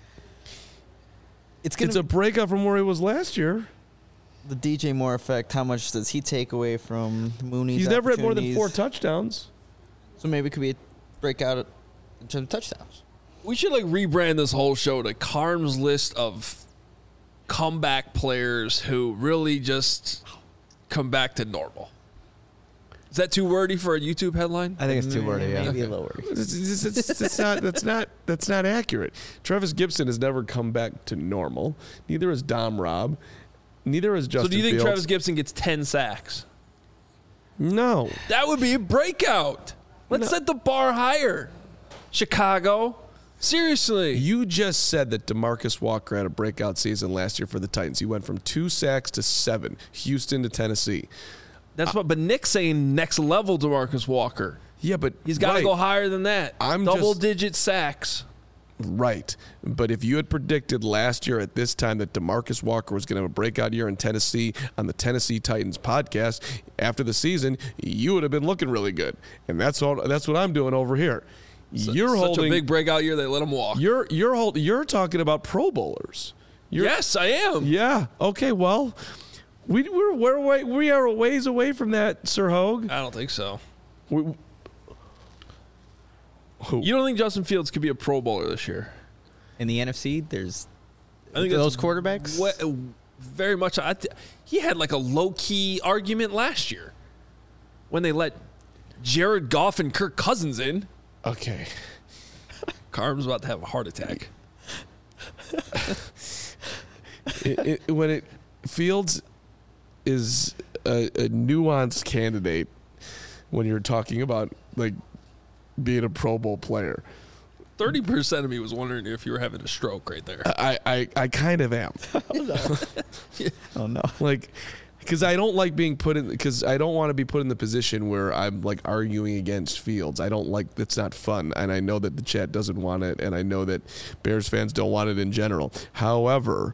It's a breakout from where he was last year. The DJ Moore effect. How much does he take away from Mooney's? He's never had more than 4 touchdowns. So maybe it could be a breakout in terms of touchdowns. We should rebrand this whole show to Carm's list of comeback players who really just come back to normal. Is that too wordy for a YouTube headline? I think it's too wordy. Yeah. Maybe a little wordy. That's not accurate. Travis Gibson has never come back to normal. Neither has Dom Robb. Neither has Justin So do you think Fields. Travis Gibson gets 10 sacks? No. That would be a breakout. Let's set the bar higher. Chicago. Seriously. You just said that DeMarcus Walker had a breakout season last year for the Titans. He went from 2 sacks to 7, Houston to Tennessee. That's what. But Nick's saying next level DeMarcus Walker. Yeah, but He's got to go higher than that. I'm double-digit sacks. Right. But if you had predicted last year at this time that DeMarcus Walker was going to have a breakout year in Tennessee on the Tennessee Titans podcast after the season, you would have been looking really good. And that's what I'm doing over here. You're such holding a big breakout year, they let him walk. You're talking about Pro Bowlers. Yes, I am. Yeah. Okay, well, we are a ways away from that, Sir Hogue. I don't think so. Who? You don't think Justin Fields could be a Pro Bowler this year? In the NFC, there's I think those that's quarterbacks. Very much. He had like a low-key argument last year when they let Jared Goff and Kirk Cousins in. Okay. Carm's about to have a heart attack. Fields is a nuanced candidate when you're talking about like being a Pro Bowl player. 30% of me was wondering if you were having a stroke right there. I kind of am. Oh no! Like, because I don't like being put in. Because I don't want to be put in the position where I'm like arguing against Fields. I don't like. It's not fun, and I know that the chat doesn't want it, and I know that Bears fans don't want it in general. However,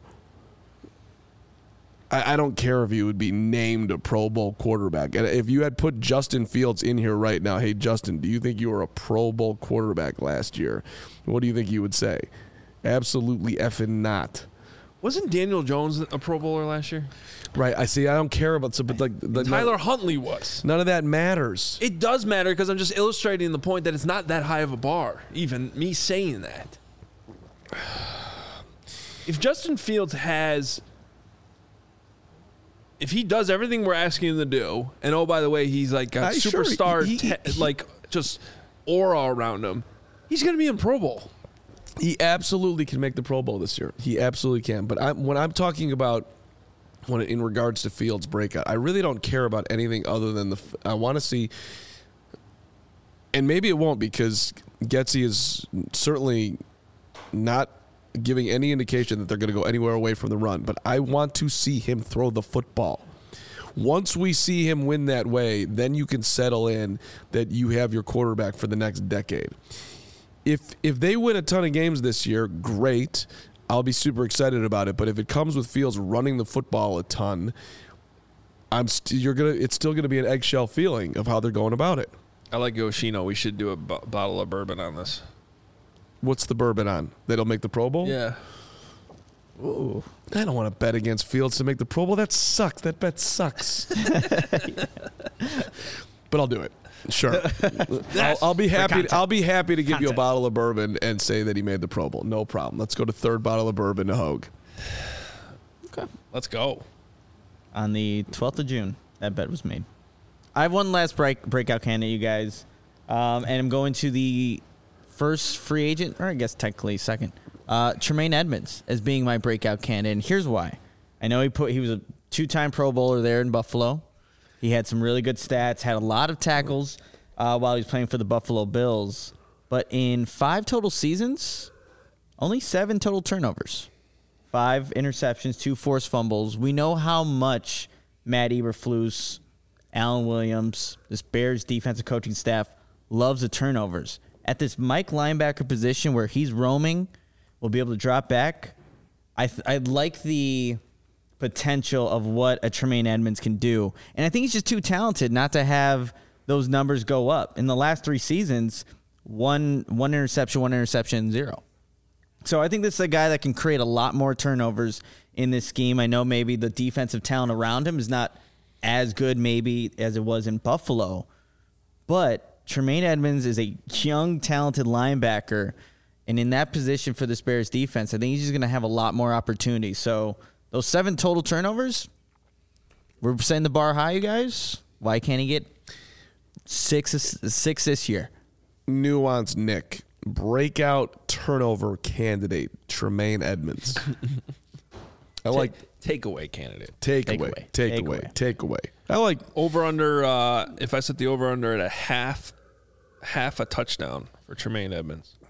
I don't care if he would be named a Pro Bowl quarterback. And if you had put Justin Fields in here right now, hey, Justin, do you think you were a Pro Bowl quarterback last year? What do you think you would say? Absolutely effing not. Wasn't Daniel Jones a Pro Bowler last year? Right. I see. I don't care about but like Tyler Huntley was. None of that matters. It does matter because I'm just illustrating the point that it's not that high of a bar, even me saying that. If Justin Fields if he does everything we're asking him to do, and oh, by the way, he's like got superstar, like just aura around him, he's going to be in Pro Bowl. He absolutely can make the Pro Bowl this year. He absolutely can. But when I'm talking about in regards to Fields' breakout, I really don't care about anything other than I want to see, and maybe it won't because Getsy is certainly not giving any indication that they're going to go anywhere away from the run. But I want to see him throw the football. Once we see him win that way, then you can settle in that you have your quarterback for the next decade. If they win a ton of games this year, great. I'll be super excited about it. But if it comes with Fields running the football a ton, it's still gonna be an eggshell feeling of how they're going about it. I like Yoshino. We should do a bottle of bourbon on this. What's the bourbon on? That'll make the Pro Bowl? Yeah. Ooh. I don't want to bet against Fields to make the Pro Bowl. That sucks. That bet sucks. But I'll do it. Sure. I'll be happy. I'll be happy to give you a bottle of bourbon and say that he made the Pro Bowl. No problem. Let's go to third bottle of bourbon to Hogue. Okay. Let's go. On the 12th of June, that bet was made. I have one last breakout candidate, you guys. And I'm going to the first free agent, or I guess technically second, Tremaine Edmonds as being my breakout candidate. And here's why. I know he was a 2-time Pro Bowler there in Buffalo. He had some really good stats, had a lot of tackles while he was playing for the Buffalo Bills. But in 5 total seasons, only 7 total turnovers. 5 interceptions, 2 forced fumbles. We know how much Matt Eberflus, Alan Williams, this Bears defensive coaching staff loves the turnovers. At this Mike linebacker position where he's roaming, will be able to drop back. I like the potential of what a Tremaine Edmonds can do. And I think he's just too talented not to have those numbers go up. In the last 3 seasons, one interception, 0. So I think this is a guy that can create a lot more turnovers in this scheme. I know maybe the defensive talent around him is not as good maybe as it was in Buffalo, but Tremaine Edmonds is a young, talented linebacker, and in that position for this Bears defense, I think he's just going to have a lot more opportunities. So those 7 total turnovers, we're setting the bar high, you guys. Why can't he get 6 this year? Nuance Nick. Breakout turnover candidate, Tremaine Edmonds. I like takeaway candidate. Takeaway. I like over under. If I set the over under at a half a touchdown for Tremaine Edmonds.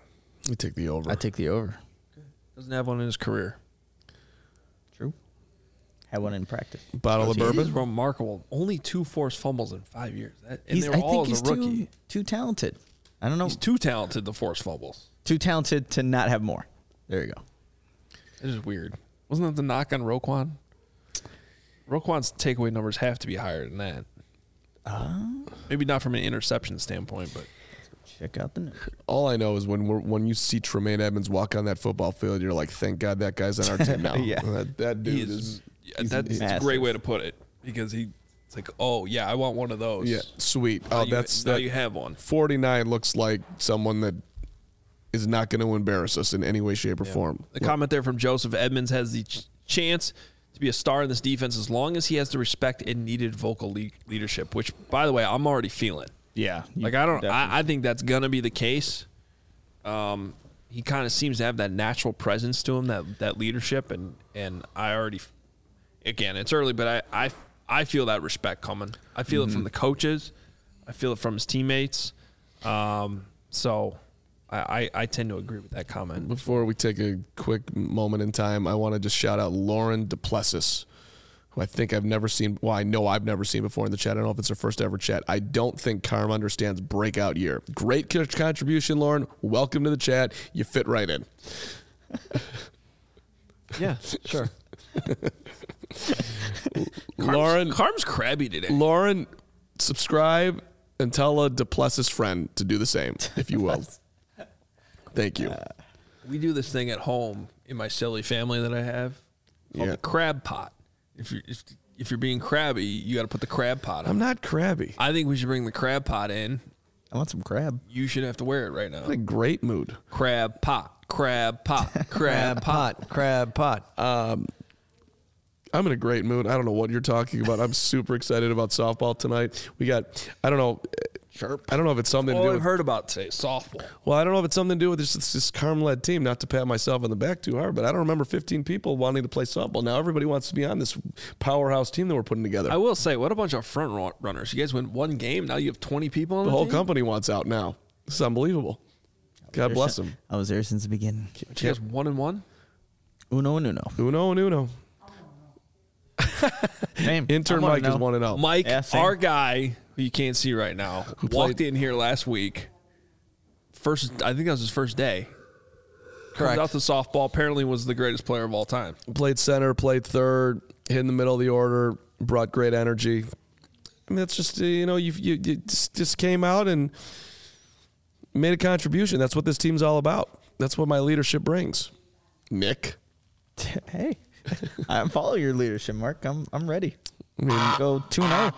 We take the over. I take the over. Doesn't have one in his career. True. Had one in practice. Bottle of It is bourbon. remarkable. Only 2 forced fumbles in 5 years. And He's, they were I all think as he's a rookie. too talented. I don't know. He's too talented to force fumbles. Too talented to not have more. There you go. It is weird. Wasn't that the knock on Roquan? Roquan's takeaway numbers have to be higher than that. Maybe not from an interception standpoint, but Check out the numbers. All I know is when you see Tremaine Edmonds walk on that football field, you're like, thank God that guy's on our team now. Yeah. That he dude is. is. That's a massive. great way to put it because it's like, oh yeah, I want one of those. Yeah, sweet. Now Oh, you, that's now that. you have one. 49 looks like someone that is not going to embarrass us in any way, shape, or form. The comment there from Joseph: Edmonds has the chance to be a star in this defense as long as he has the respect and needed vocal leadership. Which, by the way, I'm already feeling. Yeah. Like I think that's gonna be the case. He kind of seems to have that natural presence to him, that leadership, and I already, again, it's early, but I feel that respect coming. I feel it from the coaches, I feel it from his teammates. So I tend to agree with that comment. Before we take a quick moment in time, I want to just shout out Lauren Duplessis, who I think I've never seen. Well, I know I've never seen before in the chat. I don't know if it's her first ever chat. I don't think Carm understands breakout year. Great contribution, Lauren. Welcome to the chat. You fit right in. Yeah, sure. Lauren's crabby today. Lauren, subscribe and tell a Duplessis friend to do the same, if you will. Thank you. We do this thing at home in my silly family that I have called the crab pot. If you're being crabby, you got to put the crab pot on. I'm not crabby. I think we should bring the crab pot in. I want some crab. You should have to wear it right now. I'm in a great mood. Crab pot, crab pot, crab pot. Crab pot. I'm in a great mood. I don't know what you're talking about. I'm super excited about softball tonight. We got, I don't know. Chirp. I don't know if it's something to All do I've with. heard about today, softball. Well, I don't know if it's something to do with this Carm-led team. Not to pat myself on the back too hard, but I don't remember 15 people wanting to play softball. Now everybody wants to be on this powerhouse team that we're putting together. I will say, what a bunch of front runners. You guys win one game, now you have 20 people on The the whole team? company wants out now. This is unbelievable. God bless them. I was there since the beginning. You guys 1-1? Uno and uno. Uno and uno. Same. Intern I wanna Mike is know. 1-0. Mike, Yeah, same. our guy, who you can't see right now, walked in here last week. I think that was his first day. Correct. Comes out to softball, apparently was the greatest player of all time. Played center, played third, hit in the middle of the order, brought great energy. I mean, that's just, you just came out and made a contribution. That's what this team's all about. That's what my leadership brings. Nick. Hey, I follow your leadership, Mark. I'm ready. I mean, Go 2-0.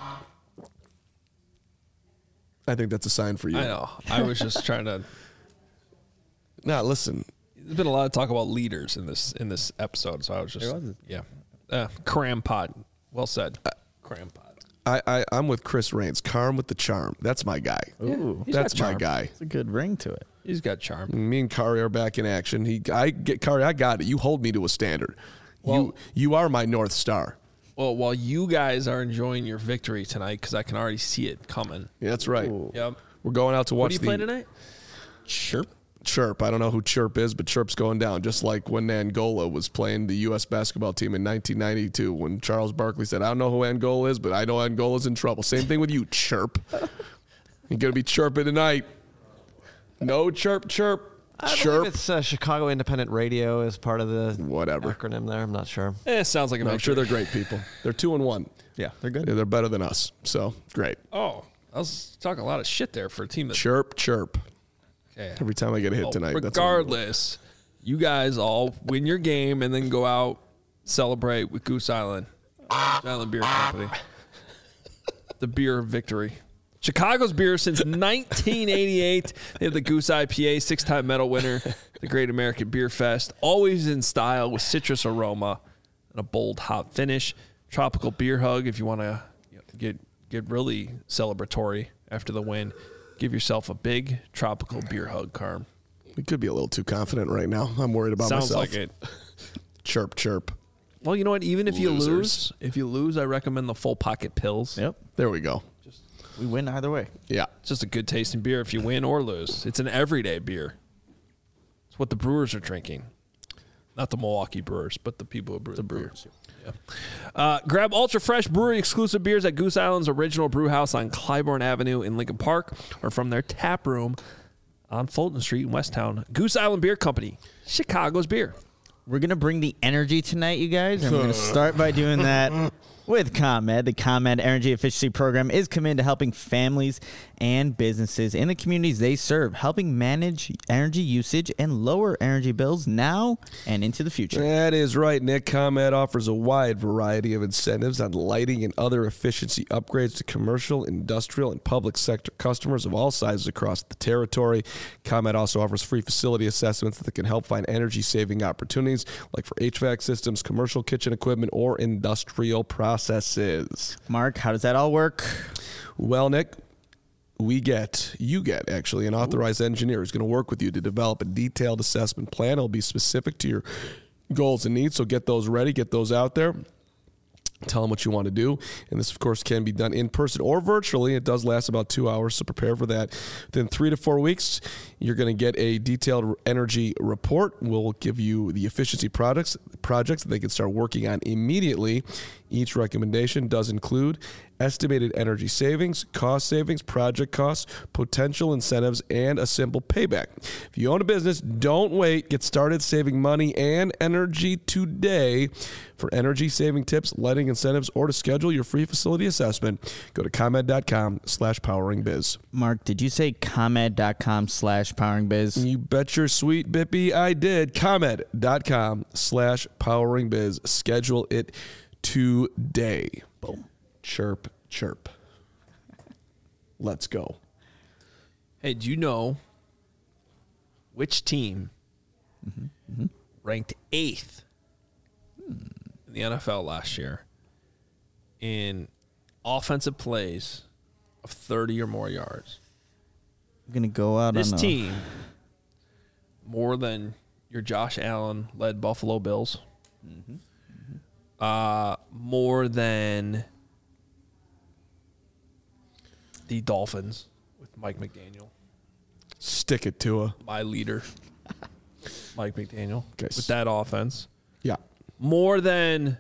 I think that's a sign for you. I know. I was just trying to. Now, listen. There's been a lot of talk about leaders in this episode, so I was just There was. cram pot. Well said. Cram pot. I'm with Chris Raines. Carm with the charm. That's my guy. Ooh, He's That's got my charm. guy. it's a good ring to it. He's got charm. Me and Kari are back in action. I got it. You hold me to a standard. Well- you are my North Star. Well, while you guys are enjoying your victory tonight, because I can already see it coming. Yeah, that's right. Ooh. Yep. We're going out to watch What do you play tonight? Chirp. I don't know who Chirp is, but Chirp's going down. Just like when Angola was playing the U.S. basketball team in 1992, when Charles Barkley said, "I don't know who Angola is, but I know Angola's in trouble." Same thing with you, Chirp. You're gonna be chirping tonight. No chirp. I Chirp. believe it's Chicago Independent Radio as part of the Whatever. acronym there. I'm not sure. It sounds like a I'm sure they're great people. They're 2-1. Yeah, they're good. They're better than us. So great. Oh, I was talking a lot of shit there for a team that. Chirp. Okay. Every time I get a hit Well, tonight. regardless, you guys all win your game and then go out, celebrate with Goose Island. Goose Island Beer Company. The beer of victory. Chicago's beer since 1988. They have the Goose IPA, 6-time medal winner, the Great American Beer Fest. Always in style with citrus aroma and a bold hop finish. Tropical beer hug if you want to get really celebratory after the win. Give yourself a big tropical beer hug, Carm. We could be a little too confident right now. I'm worried about Sounds myself. like it. Chirp. Well, you know what? Even if Losers. you lose, I recommend the full pocket pills. Yep. There we go. We win either way. Yeah. It's just a good tasting beer if you win or lose. It's an everyday beer. It's what the Brewers are drinking. Not the Milwaukee Brewers, but the people who brew the Brewers. Yeah. Grab ultra fresh brewery exclusive beers at Goose Island's original brew house on Clybourne Avenue in Lincoln Park, or from their tap room on Fulton Street in Westtown. Goose Island Beer Company, Chicago's beer. We're going to bring the energy tonight, you guys, and we're going to start by doing that with ComEd. The ComEd Energy Efficiency Program is committed to helping families and businesses in the communities they serve, helping manage energy usage and lower energy bills now and into the future. That is right, Nick. ComEd offers a wide variety of incentives on lighting and other efficiency upgrades to commercial, industrial, and public sector customers of all sizes across the territory. ComEd also offers free facility assessments that can help find energy-saving opportunities, like for HVAC systems, commercial kitchen equipment, or industrial processes. Mark, how does that all work? Well, Nick, you get actually an authorized engineer who's going to work with you to develop a detailed assessment plan. It'll be specific to your goals and needs, so get those ready, get those out there. Tell them what you want to do. And this, of course, can be done in person or virtually. It does last about 2 hours, so prepare for that. Within 3 to 4 weeks, you're going to get a detailed energy report. We'll give you the efficiency projects that they can start working on immediately. Each recommendation does include estimated energy savings, cost savings, project costs, potential incentives, and a simple payback. If you own a business, don't wait. Get started saving money and energy today. For energy saving tips, lighting incentives, or to schedule your free facility assessment, go to ComEd.com/poweringbiz. Mark, did you say ComEd.com/poweringbiz? You bet your sweet bippy I did. ComEd.com/poweringbiz. Schedule it today. Boom. Chirp, chirp. Let's go. Hey, do you know which team ranked 8th in the NFL last year in offensive plays of 30 or more yards? I'm going to go out This on team, more than your Josh Allen-led Buffalo Bills, more than the Dolphins with Mike McDaniel. Stick it to a. My leader, Mike McDaniel, Okay. with that offense. Yeah. More than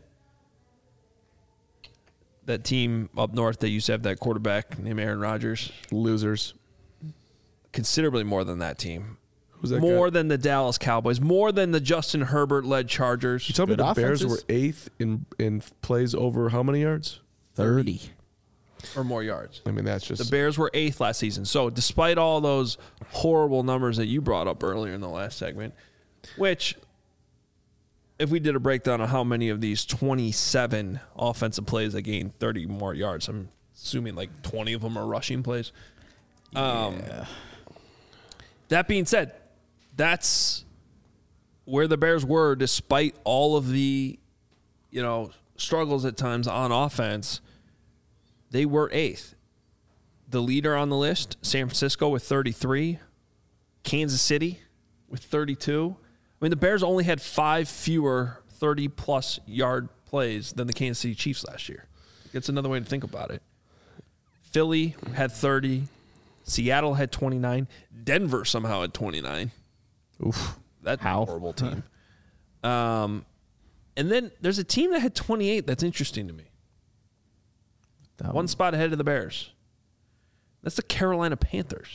that team up north that used to have that quarterback named Aaron Rodgers. Losers. Considerably more than that team. Who's that More guy? than the Dallas Cowboys. More than the Justin Herbert-led Chargers. You told me Good the Bears offenses. were 8th in plays over how many yards? 30. Or more yards. I mean, that's The just. Bears were 8th last season. So despite all those horrible numbers that you brought up earlier in the last segment, which if we did a breakdown of how many of these 27 offensive plays that gained 30 more yards, I'm assuming like 20 of them are rushing plays. That being said, that's where the Bears were despite all of the, struggles at times on offense. They were 8th. The leader on the list, San Francisco with 33, Kansas City with 32. I mean, the Bears only had 5 fewer 30-plus yard plays than the Kansas City Chiefs last year. That's another way to think about it. Philly had 30. Seattle had 29. Denver somehow had 29. Oof. That's a How? horrible team. And then there's a team that had 28 that's interesting to me. One spot ahead of the Bears. That's the Carolina Panthers.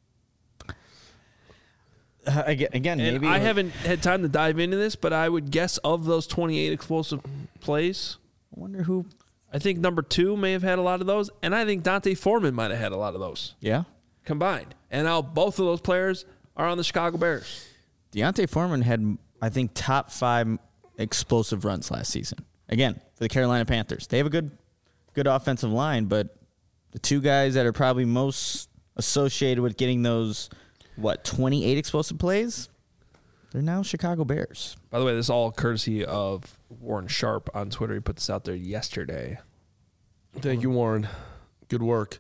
Again, And maybe I haven't had time to dive into this, but I would guess of those 28 explosive plays, I wonder who. I think number 2 may have had a lot of those, and I think Dante Foreman might have had a lot of those Yeah. combined. And now both of those players are on the Chicago Bears. Deontay Foreman had, I think, top 5 explosive runs last season. Again, for the Carolina Panthers. They have a good offensive line, but the 2 guys that are probably most associated with getting those, 28 explosive plays, they're now Chicago Bears. By the way, this is all courtesy of Warren Sharp on Twitter. He put this out there yesterday. Thank you, Warren. Good work.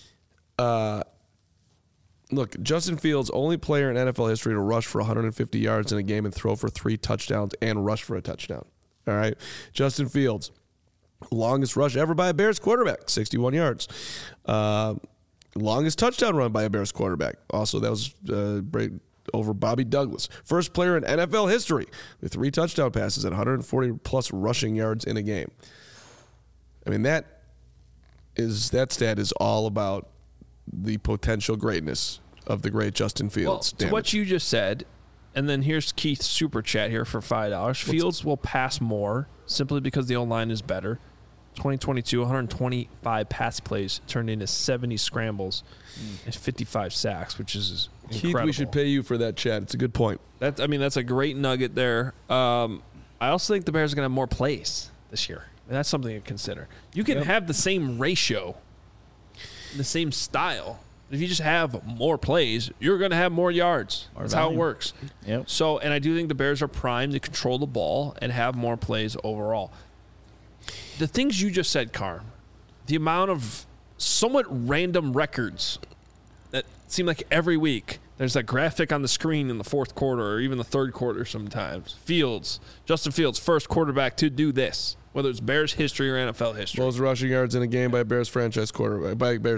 Look, Justin Fields, only player in NFL history to rush for 150 yards in a game and throw for 3 touchdowns and rush for a touchdown. All right. Justin Fields, longest rush ever by a Bears quarterback, 61 yards. Longest touchdown run by a Bears quarterback. Also, that was over Bobby Douglas, first player in NFL history with 3 touchdown passes and 140-plus rushing yards in a game. I mean, that stat is all about the potential greatness of the great Justin Fields. To what you just said, and then here's Keith's super chat here for $5. Fields will pass more simply because the O-line is better. 2022, 125 pass plays turned into 70 scrambles and 55 sacks, which is incredible. Keith, we should pay you for that chat. It's a good point. That's a great nugget there. I also think the Bears are going to have more plays this year. And that's something to consider. You can have the same ratio, the same style. If you just have more plays, you're going to have more yards. That's how it works. Yep. So, and I do think the Bears are primed to control the ball and have more plays overall. The things you just said, Carm, the amount of somewhat random records that seem like every week there's that graphic on the screen in the fourth quarter or even the third quarter sometimes. Justin Fields, first quarterback to do this, whether it's Bears history or NFL history. Most rushing yards in a game by Bears quarterback,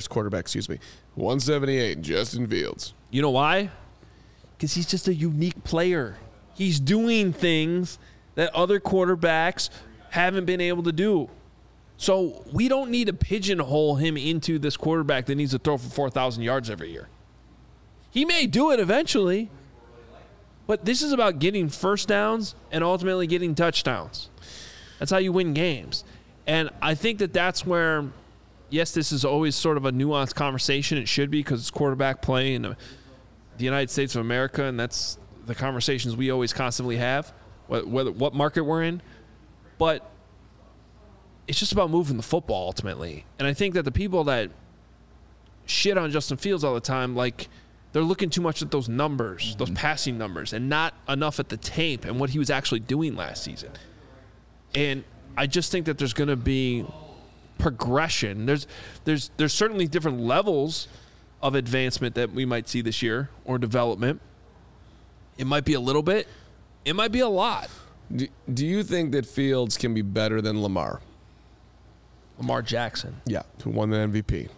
178, Justin Fields. You know why? Because he's just a unique player. He's doing things that other quarterbacks haven't been able to do. So we don't need to pigeonhole him into this quarterback that needs to throw for 4,000 yards every year. He may do it eventually, but this is about getting first downs and ultimately getting touchdowns. That's how you win games. And I think that's where, yes, this is always sort of a nuanced conversation. It should be because it's quarterback play in the United States of America, and that's the conversations we always constantly have, what market we're in. But it's just about moving the football ultimately. And I think that the people that shit on Justin Fields all the time, like, they're looking too much at those numbers, those passing numbers, and not enough at the tape and what he was actually doing last season. And I just think that there's going to be progression. There's certainly different levels of advancement that we might see this year or development. It might be a little bit. It might be a lot. Do you think that Fields can be better than Lamar? Lamar Jackson. Yeah, who won the MVP.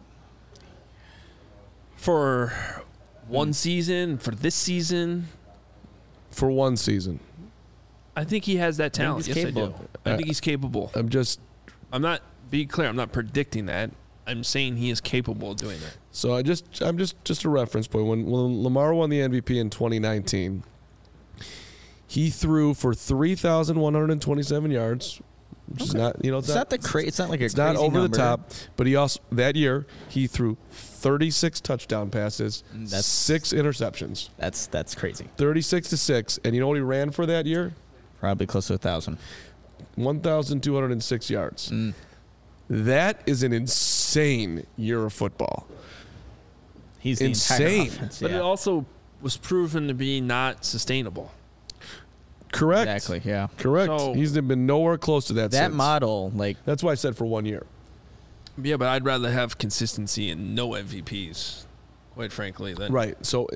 For one season, for this season? For one season. I think he has that talent. Yes, I do. I think he's capable. I'm not, be clear, I'm not predicting that. I'm saying he is capable of doing that. So I'm just a reference point. When Lamar won the MVP in 2019, he threw for 3,127 yards, which is not, it's not like it's not over number. the top. But he also that year he threw 36 touchdown passes, 6 interceptions. That's crazy. 36-6, and you know what he ran for that year? Probably close to 1,000. 1,206 yards. That is an insane year of football. He's the insane. Entire offense, But it also was proven to be not sustainable. Correct. Exactly, yeah. Correct. So- He's been nowhere close to that That since. model, That's why I said for 1 year. Yeah, but I'd rather have consistency and no MVPs, quite frankly. Than, Right. So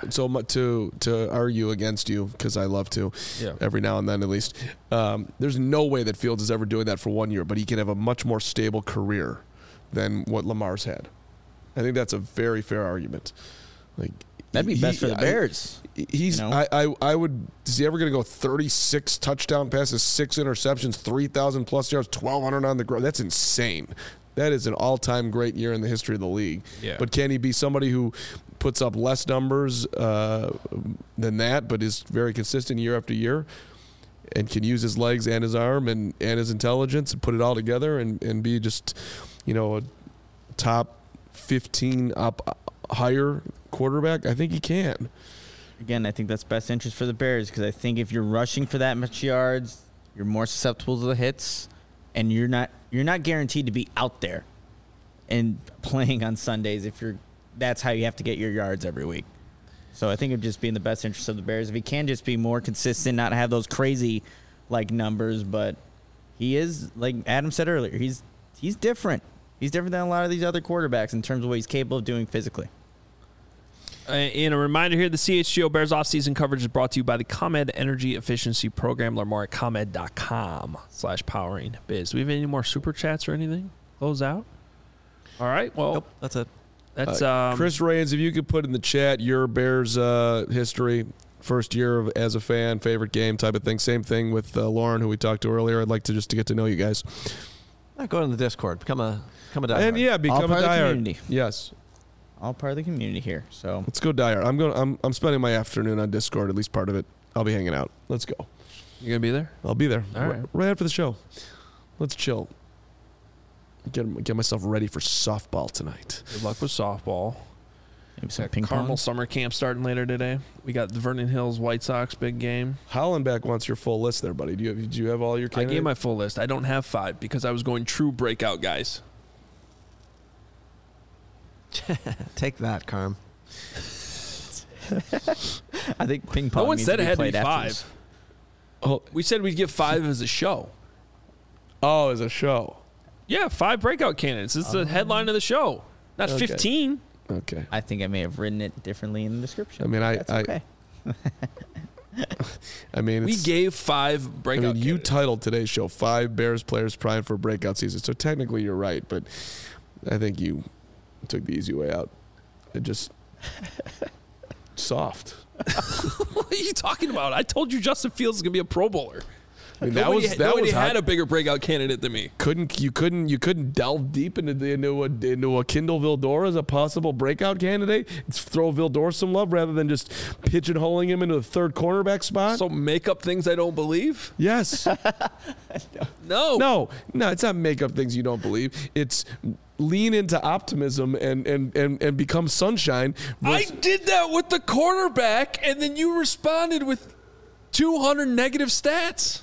to argue against you, because I love to, Yeah. every now and then at least, there's no way that Fields is ever doing that for 1 year, but he can have a much more stable career than what Lamar's had. I think that's a very fair argument. Like, that'd be best for the Bears. I would. Is he ever going to go 36 touchdown passes, 6 interceptions, 3,000 plus yards, 1,200 on the ground? That's insane. That is an all-time great year in the history of the league. Yeah. But can he be somebody who puts up less numbers than that, but is very consistent year after year, and can use his legs and his arm and his intelligence and put it all together and be just, a top 15 up higher quarterback? I think he can. Again, I think that's best interest for the Bears because I think if you're rushing for that much yards, you're more susceptible to the hits, and you're not guaranteed to be out there and playing on Sundays that's how you have to get your yards every week. So I think it'd just be in the best interest of the Bears if he can just be more consistent, not have those crazy numbers, but he is, like Adam said earlier, he's different. He's different than a lot of these other quarterbacks in terms of what he's capable of doing physically. And a reminder here, the CHGO Bears offseason coverage is brought to you by the ComEd Energy Efficiency Program. Learn more at ComEd.com/poweringbiz. Do we have any more super chats or anything? Close out? All right. Well, Nope, that's it. That's Chris Raines, if you could put in the chat your Bears history, first year as a fan, favorite game type of thing. Same thing with Lauren, who we talked to earlier. I'd like to just to get to know you guys. Go to the Discord. Become a diehard. And yeah, become All part a of the diehard. community. Yes. All part of the community here. So Let's go diehard. I'm spending my afternoon on Discord, at least part of it. I'll be hanging out. Let's go. You gonna be there? I'll be there. All right. Right after the show. Let's chill. Get myself ready for softball tonight. Good luck with softball. maybe some Got ping Carmel pong. summer camp starting later today. We got the Vernon Hills White Sox big game. Hollenbeck wants your full list there, buddy. Do you have all your I candidates? gave my full list. I don't have 5 because I was going true breakout guys. Take that, Carm. I think ping pong. No one needs said to it be had to be played after 5. this. Oh, We said we'd give 5 as a show. as a show. Yeah, 5 breakout candidates. It's the headline of the show, not Okay. 15. Okay. I think I may have written it differently in the description. I mean, That's okay. I mean, We it's, gave 5 I breakout mean, you candidates. titled today's show 5 Bears players primed for a breakout season. So technically you're right, but I think you took the easy way out. It just soft. What are you talking about? I told you Justin Fields is going to be a Pro Bowler. I mean, Nobody was had hot. a bigger breakout candidate than me. You couldn't delve deep into a Kindle Vildor as a possible breakout candidate. It's throw Vildor some love rather than just pigeonholing him into the third cornerback spot. So make up things I don't believe? Yes. No. No, it's not make up things you don't believe. It's lean into optimism and become sunshine. I did that with the quarterback, and then you responded with 200 negative stats.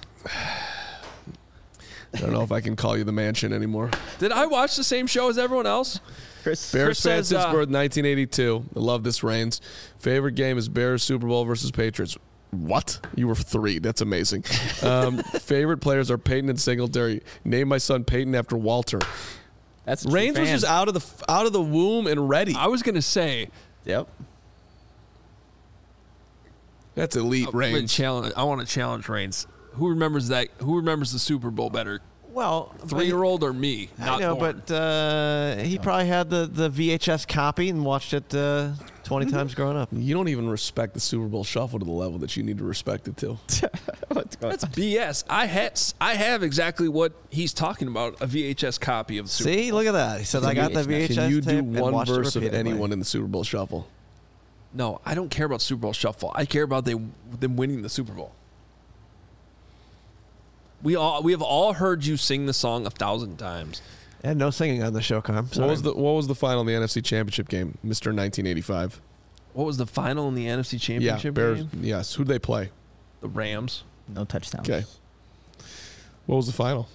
I don't know if I can call you the mansion anymore. Did I watch the same show as everyone else? Chris, Bears fan says, since birth, 1982. I love this, Reigns. Favorite game is Bears Super Bowl versus Patriots. What? You were 3. That's amazing. Favorite players are Peyton and Singletary. Name my son Peyton after Walter. that's a true Reigns was fan. just out of the womb and ready. I was going to say, Yep. That's elite, Reigns. I want to challenge Reigns. Who remembers that? Who remembers the Super Bowl better? Well, 3-year-old or me? I Not know, born. but he probably had the VHS copy and watched it 20 times growing up. You don't even respect the Super Bowl shuffle to the level that you need to respect it to. What's going That's on? BS. I have exactly what he's talking about, a VHS copy of the Super See, look at that. He said, I got the VHS Can you tape do and one watched it verse of repeatedly." anyone in the Super Bowl shuffle? No, I don't care about Super Bowl shuffle. I care about them winning the Super Bowl. We have all heard you sing the song 1,000 times. And no singing on the show, Carm. What was the final in the NFC Championship game, Mr. 1985? What was the final in the NFC Yeah, Championship Bears. game? Yes. Who'd they play? The Rams. No touchdowns. Okay. What was the final?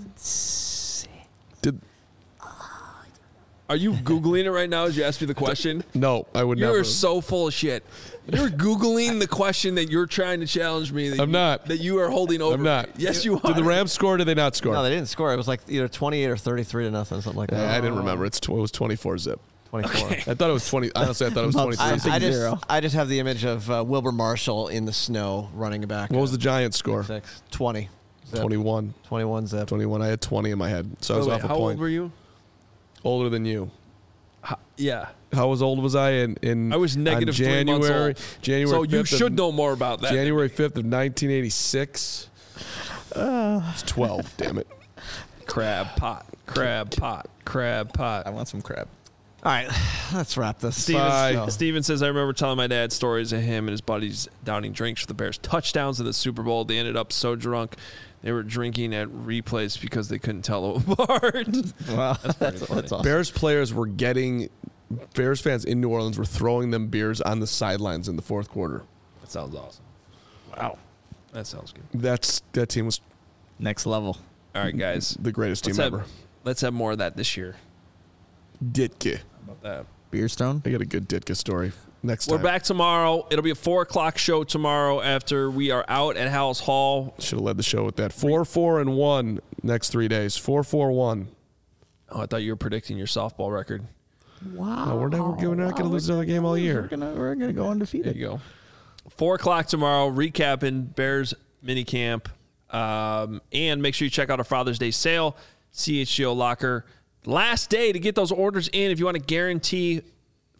Did Are you Googling it right now as you ask me the question? no? I would You never. are so full of shit. You're Googling the question that you're trying to challenge me. That I'm not. That you are holding over. I'm not. me. Yes, you are. Did the Rams score? Or did they not score? No, they didn't score. It was like either 28 or 33 to nothing, something like that. Yeah, I didn't remember. It was 24 zip. 24. Okay. I thought it was 20. Honestly, I thought it was 23. I just have the image of Wilbur Marshall in the snow running back. What was the Giants score? 20. Zip. 21. 21 zip. 21. I had 20 in my head, so I was Wait, off a how point. old were you? Older than you. Yeah. How old was I in I was negative on 3 months January? old. January. So you 5th of- should know more about that. January 5th of 1986. It's 12. Damn it. Crab pot. Crab pot. Crab pot. I want some crab. All right, let's wrap this. Bye. Steven says, I remember telling my dad stories of him and his buddies downing drinks for the Bears touchdowns in the Super Bowl. They ended up so drunk they were drinking at replays because they couldn't tell them apart. Wow, That's awesome. Bears players were getting. Bears fans in New Orleans were throwing them beers on the sidelines in the fourth quarter. That sounds awesome. Wow. That sounds good. That team was Next level. All right, guys. the greatest team ever. Let's have more of that this year. Ditka. How about that? Beer Stone. I got a good Ditka story next We're time. back tomorrow. It'll be a 4:00 show tomorrow after we are out at Howells Hall. Should have led the show with that. 4-4-1 next 3 days. 4-4-1. Oh, I thought you were predicting your softball record. Wow. We're not going to lose another game all year. We're gonna go There undefeated. you go. 4:00 tomorrow, recapping Bears minicamp. And make sure you check out our Father's Day sale, CHGO Locker. Last day to get those orders in if you want to guarantee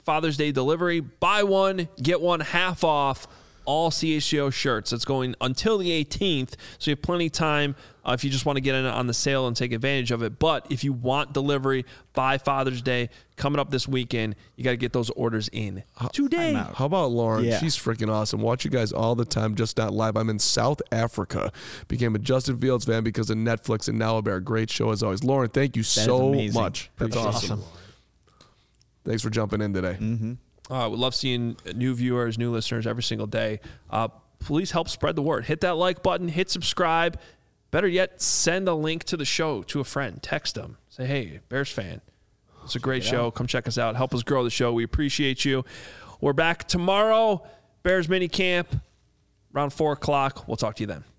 Father's Day delivery. Buy one, get one half off all CHGO shirts. It's going until the 18th, so you have plenty of time if you just want to get in on the sale and take advantage of it. But if you want delivery by Father's Day coming up this weekend, you got to get those orders in today. How about Lauren? Yeah. She's freaking awesome. Watch you guys all the time, just not live. I'm in South Africa. Became a Justin Fields fan because of Netflix and Now a Bear. Great show as always. Lauren, thank you so amazing. much. That's awesome. Thanks for jumping in today. We love seeing new viewers, new listeners every single day. Please help spread the word. Hit that like button. Hit subscribe. Better yet, send a link to the show to a friend. Text them. Say, hey, Bears fan. It's a great show. Come check us out. Help us grow the show. We appreciate you. We're back tomorrow. Bears mini camp around 4 o'clock. We'll talk to you then.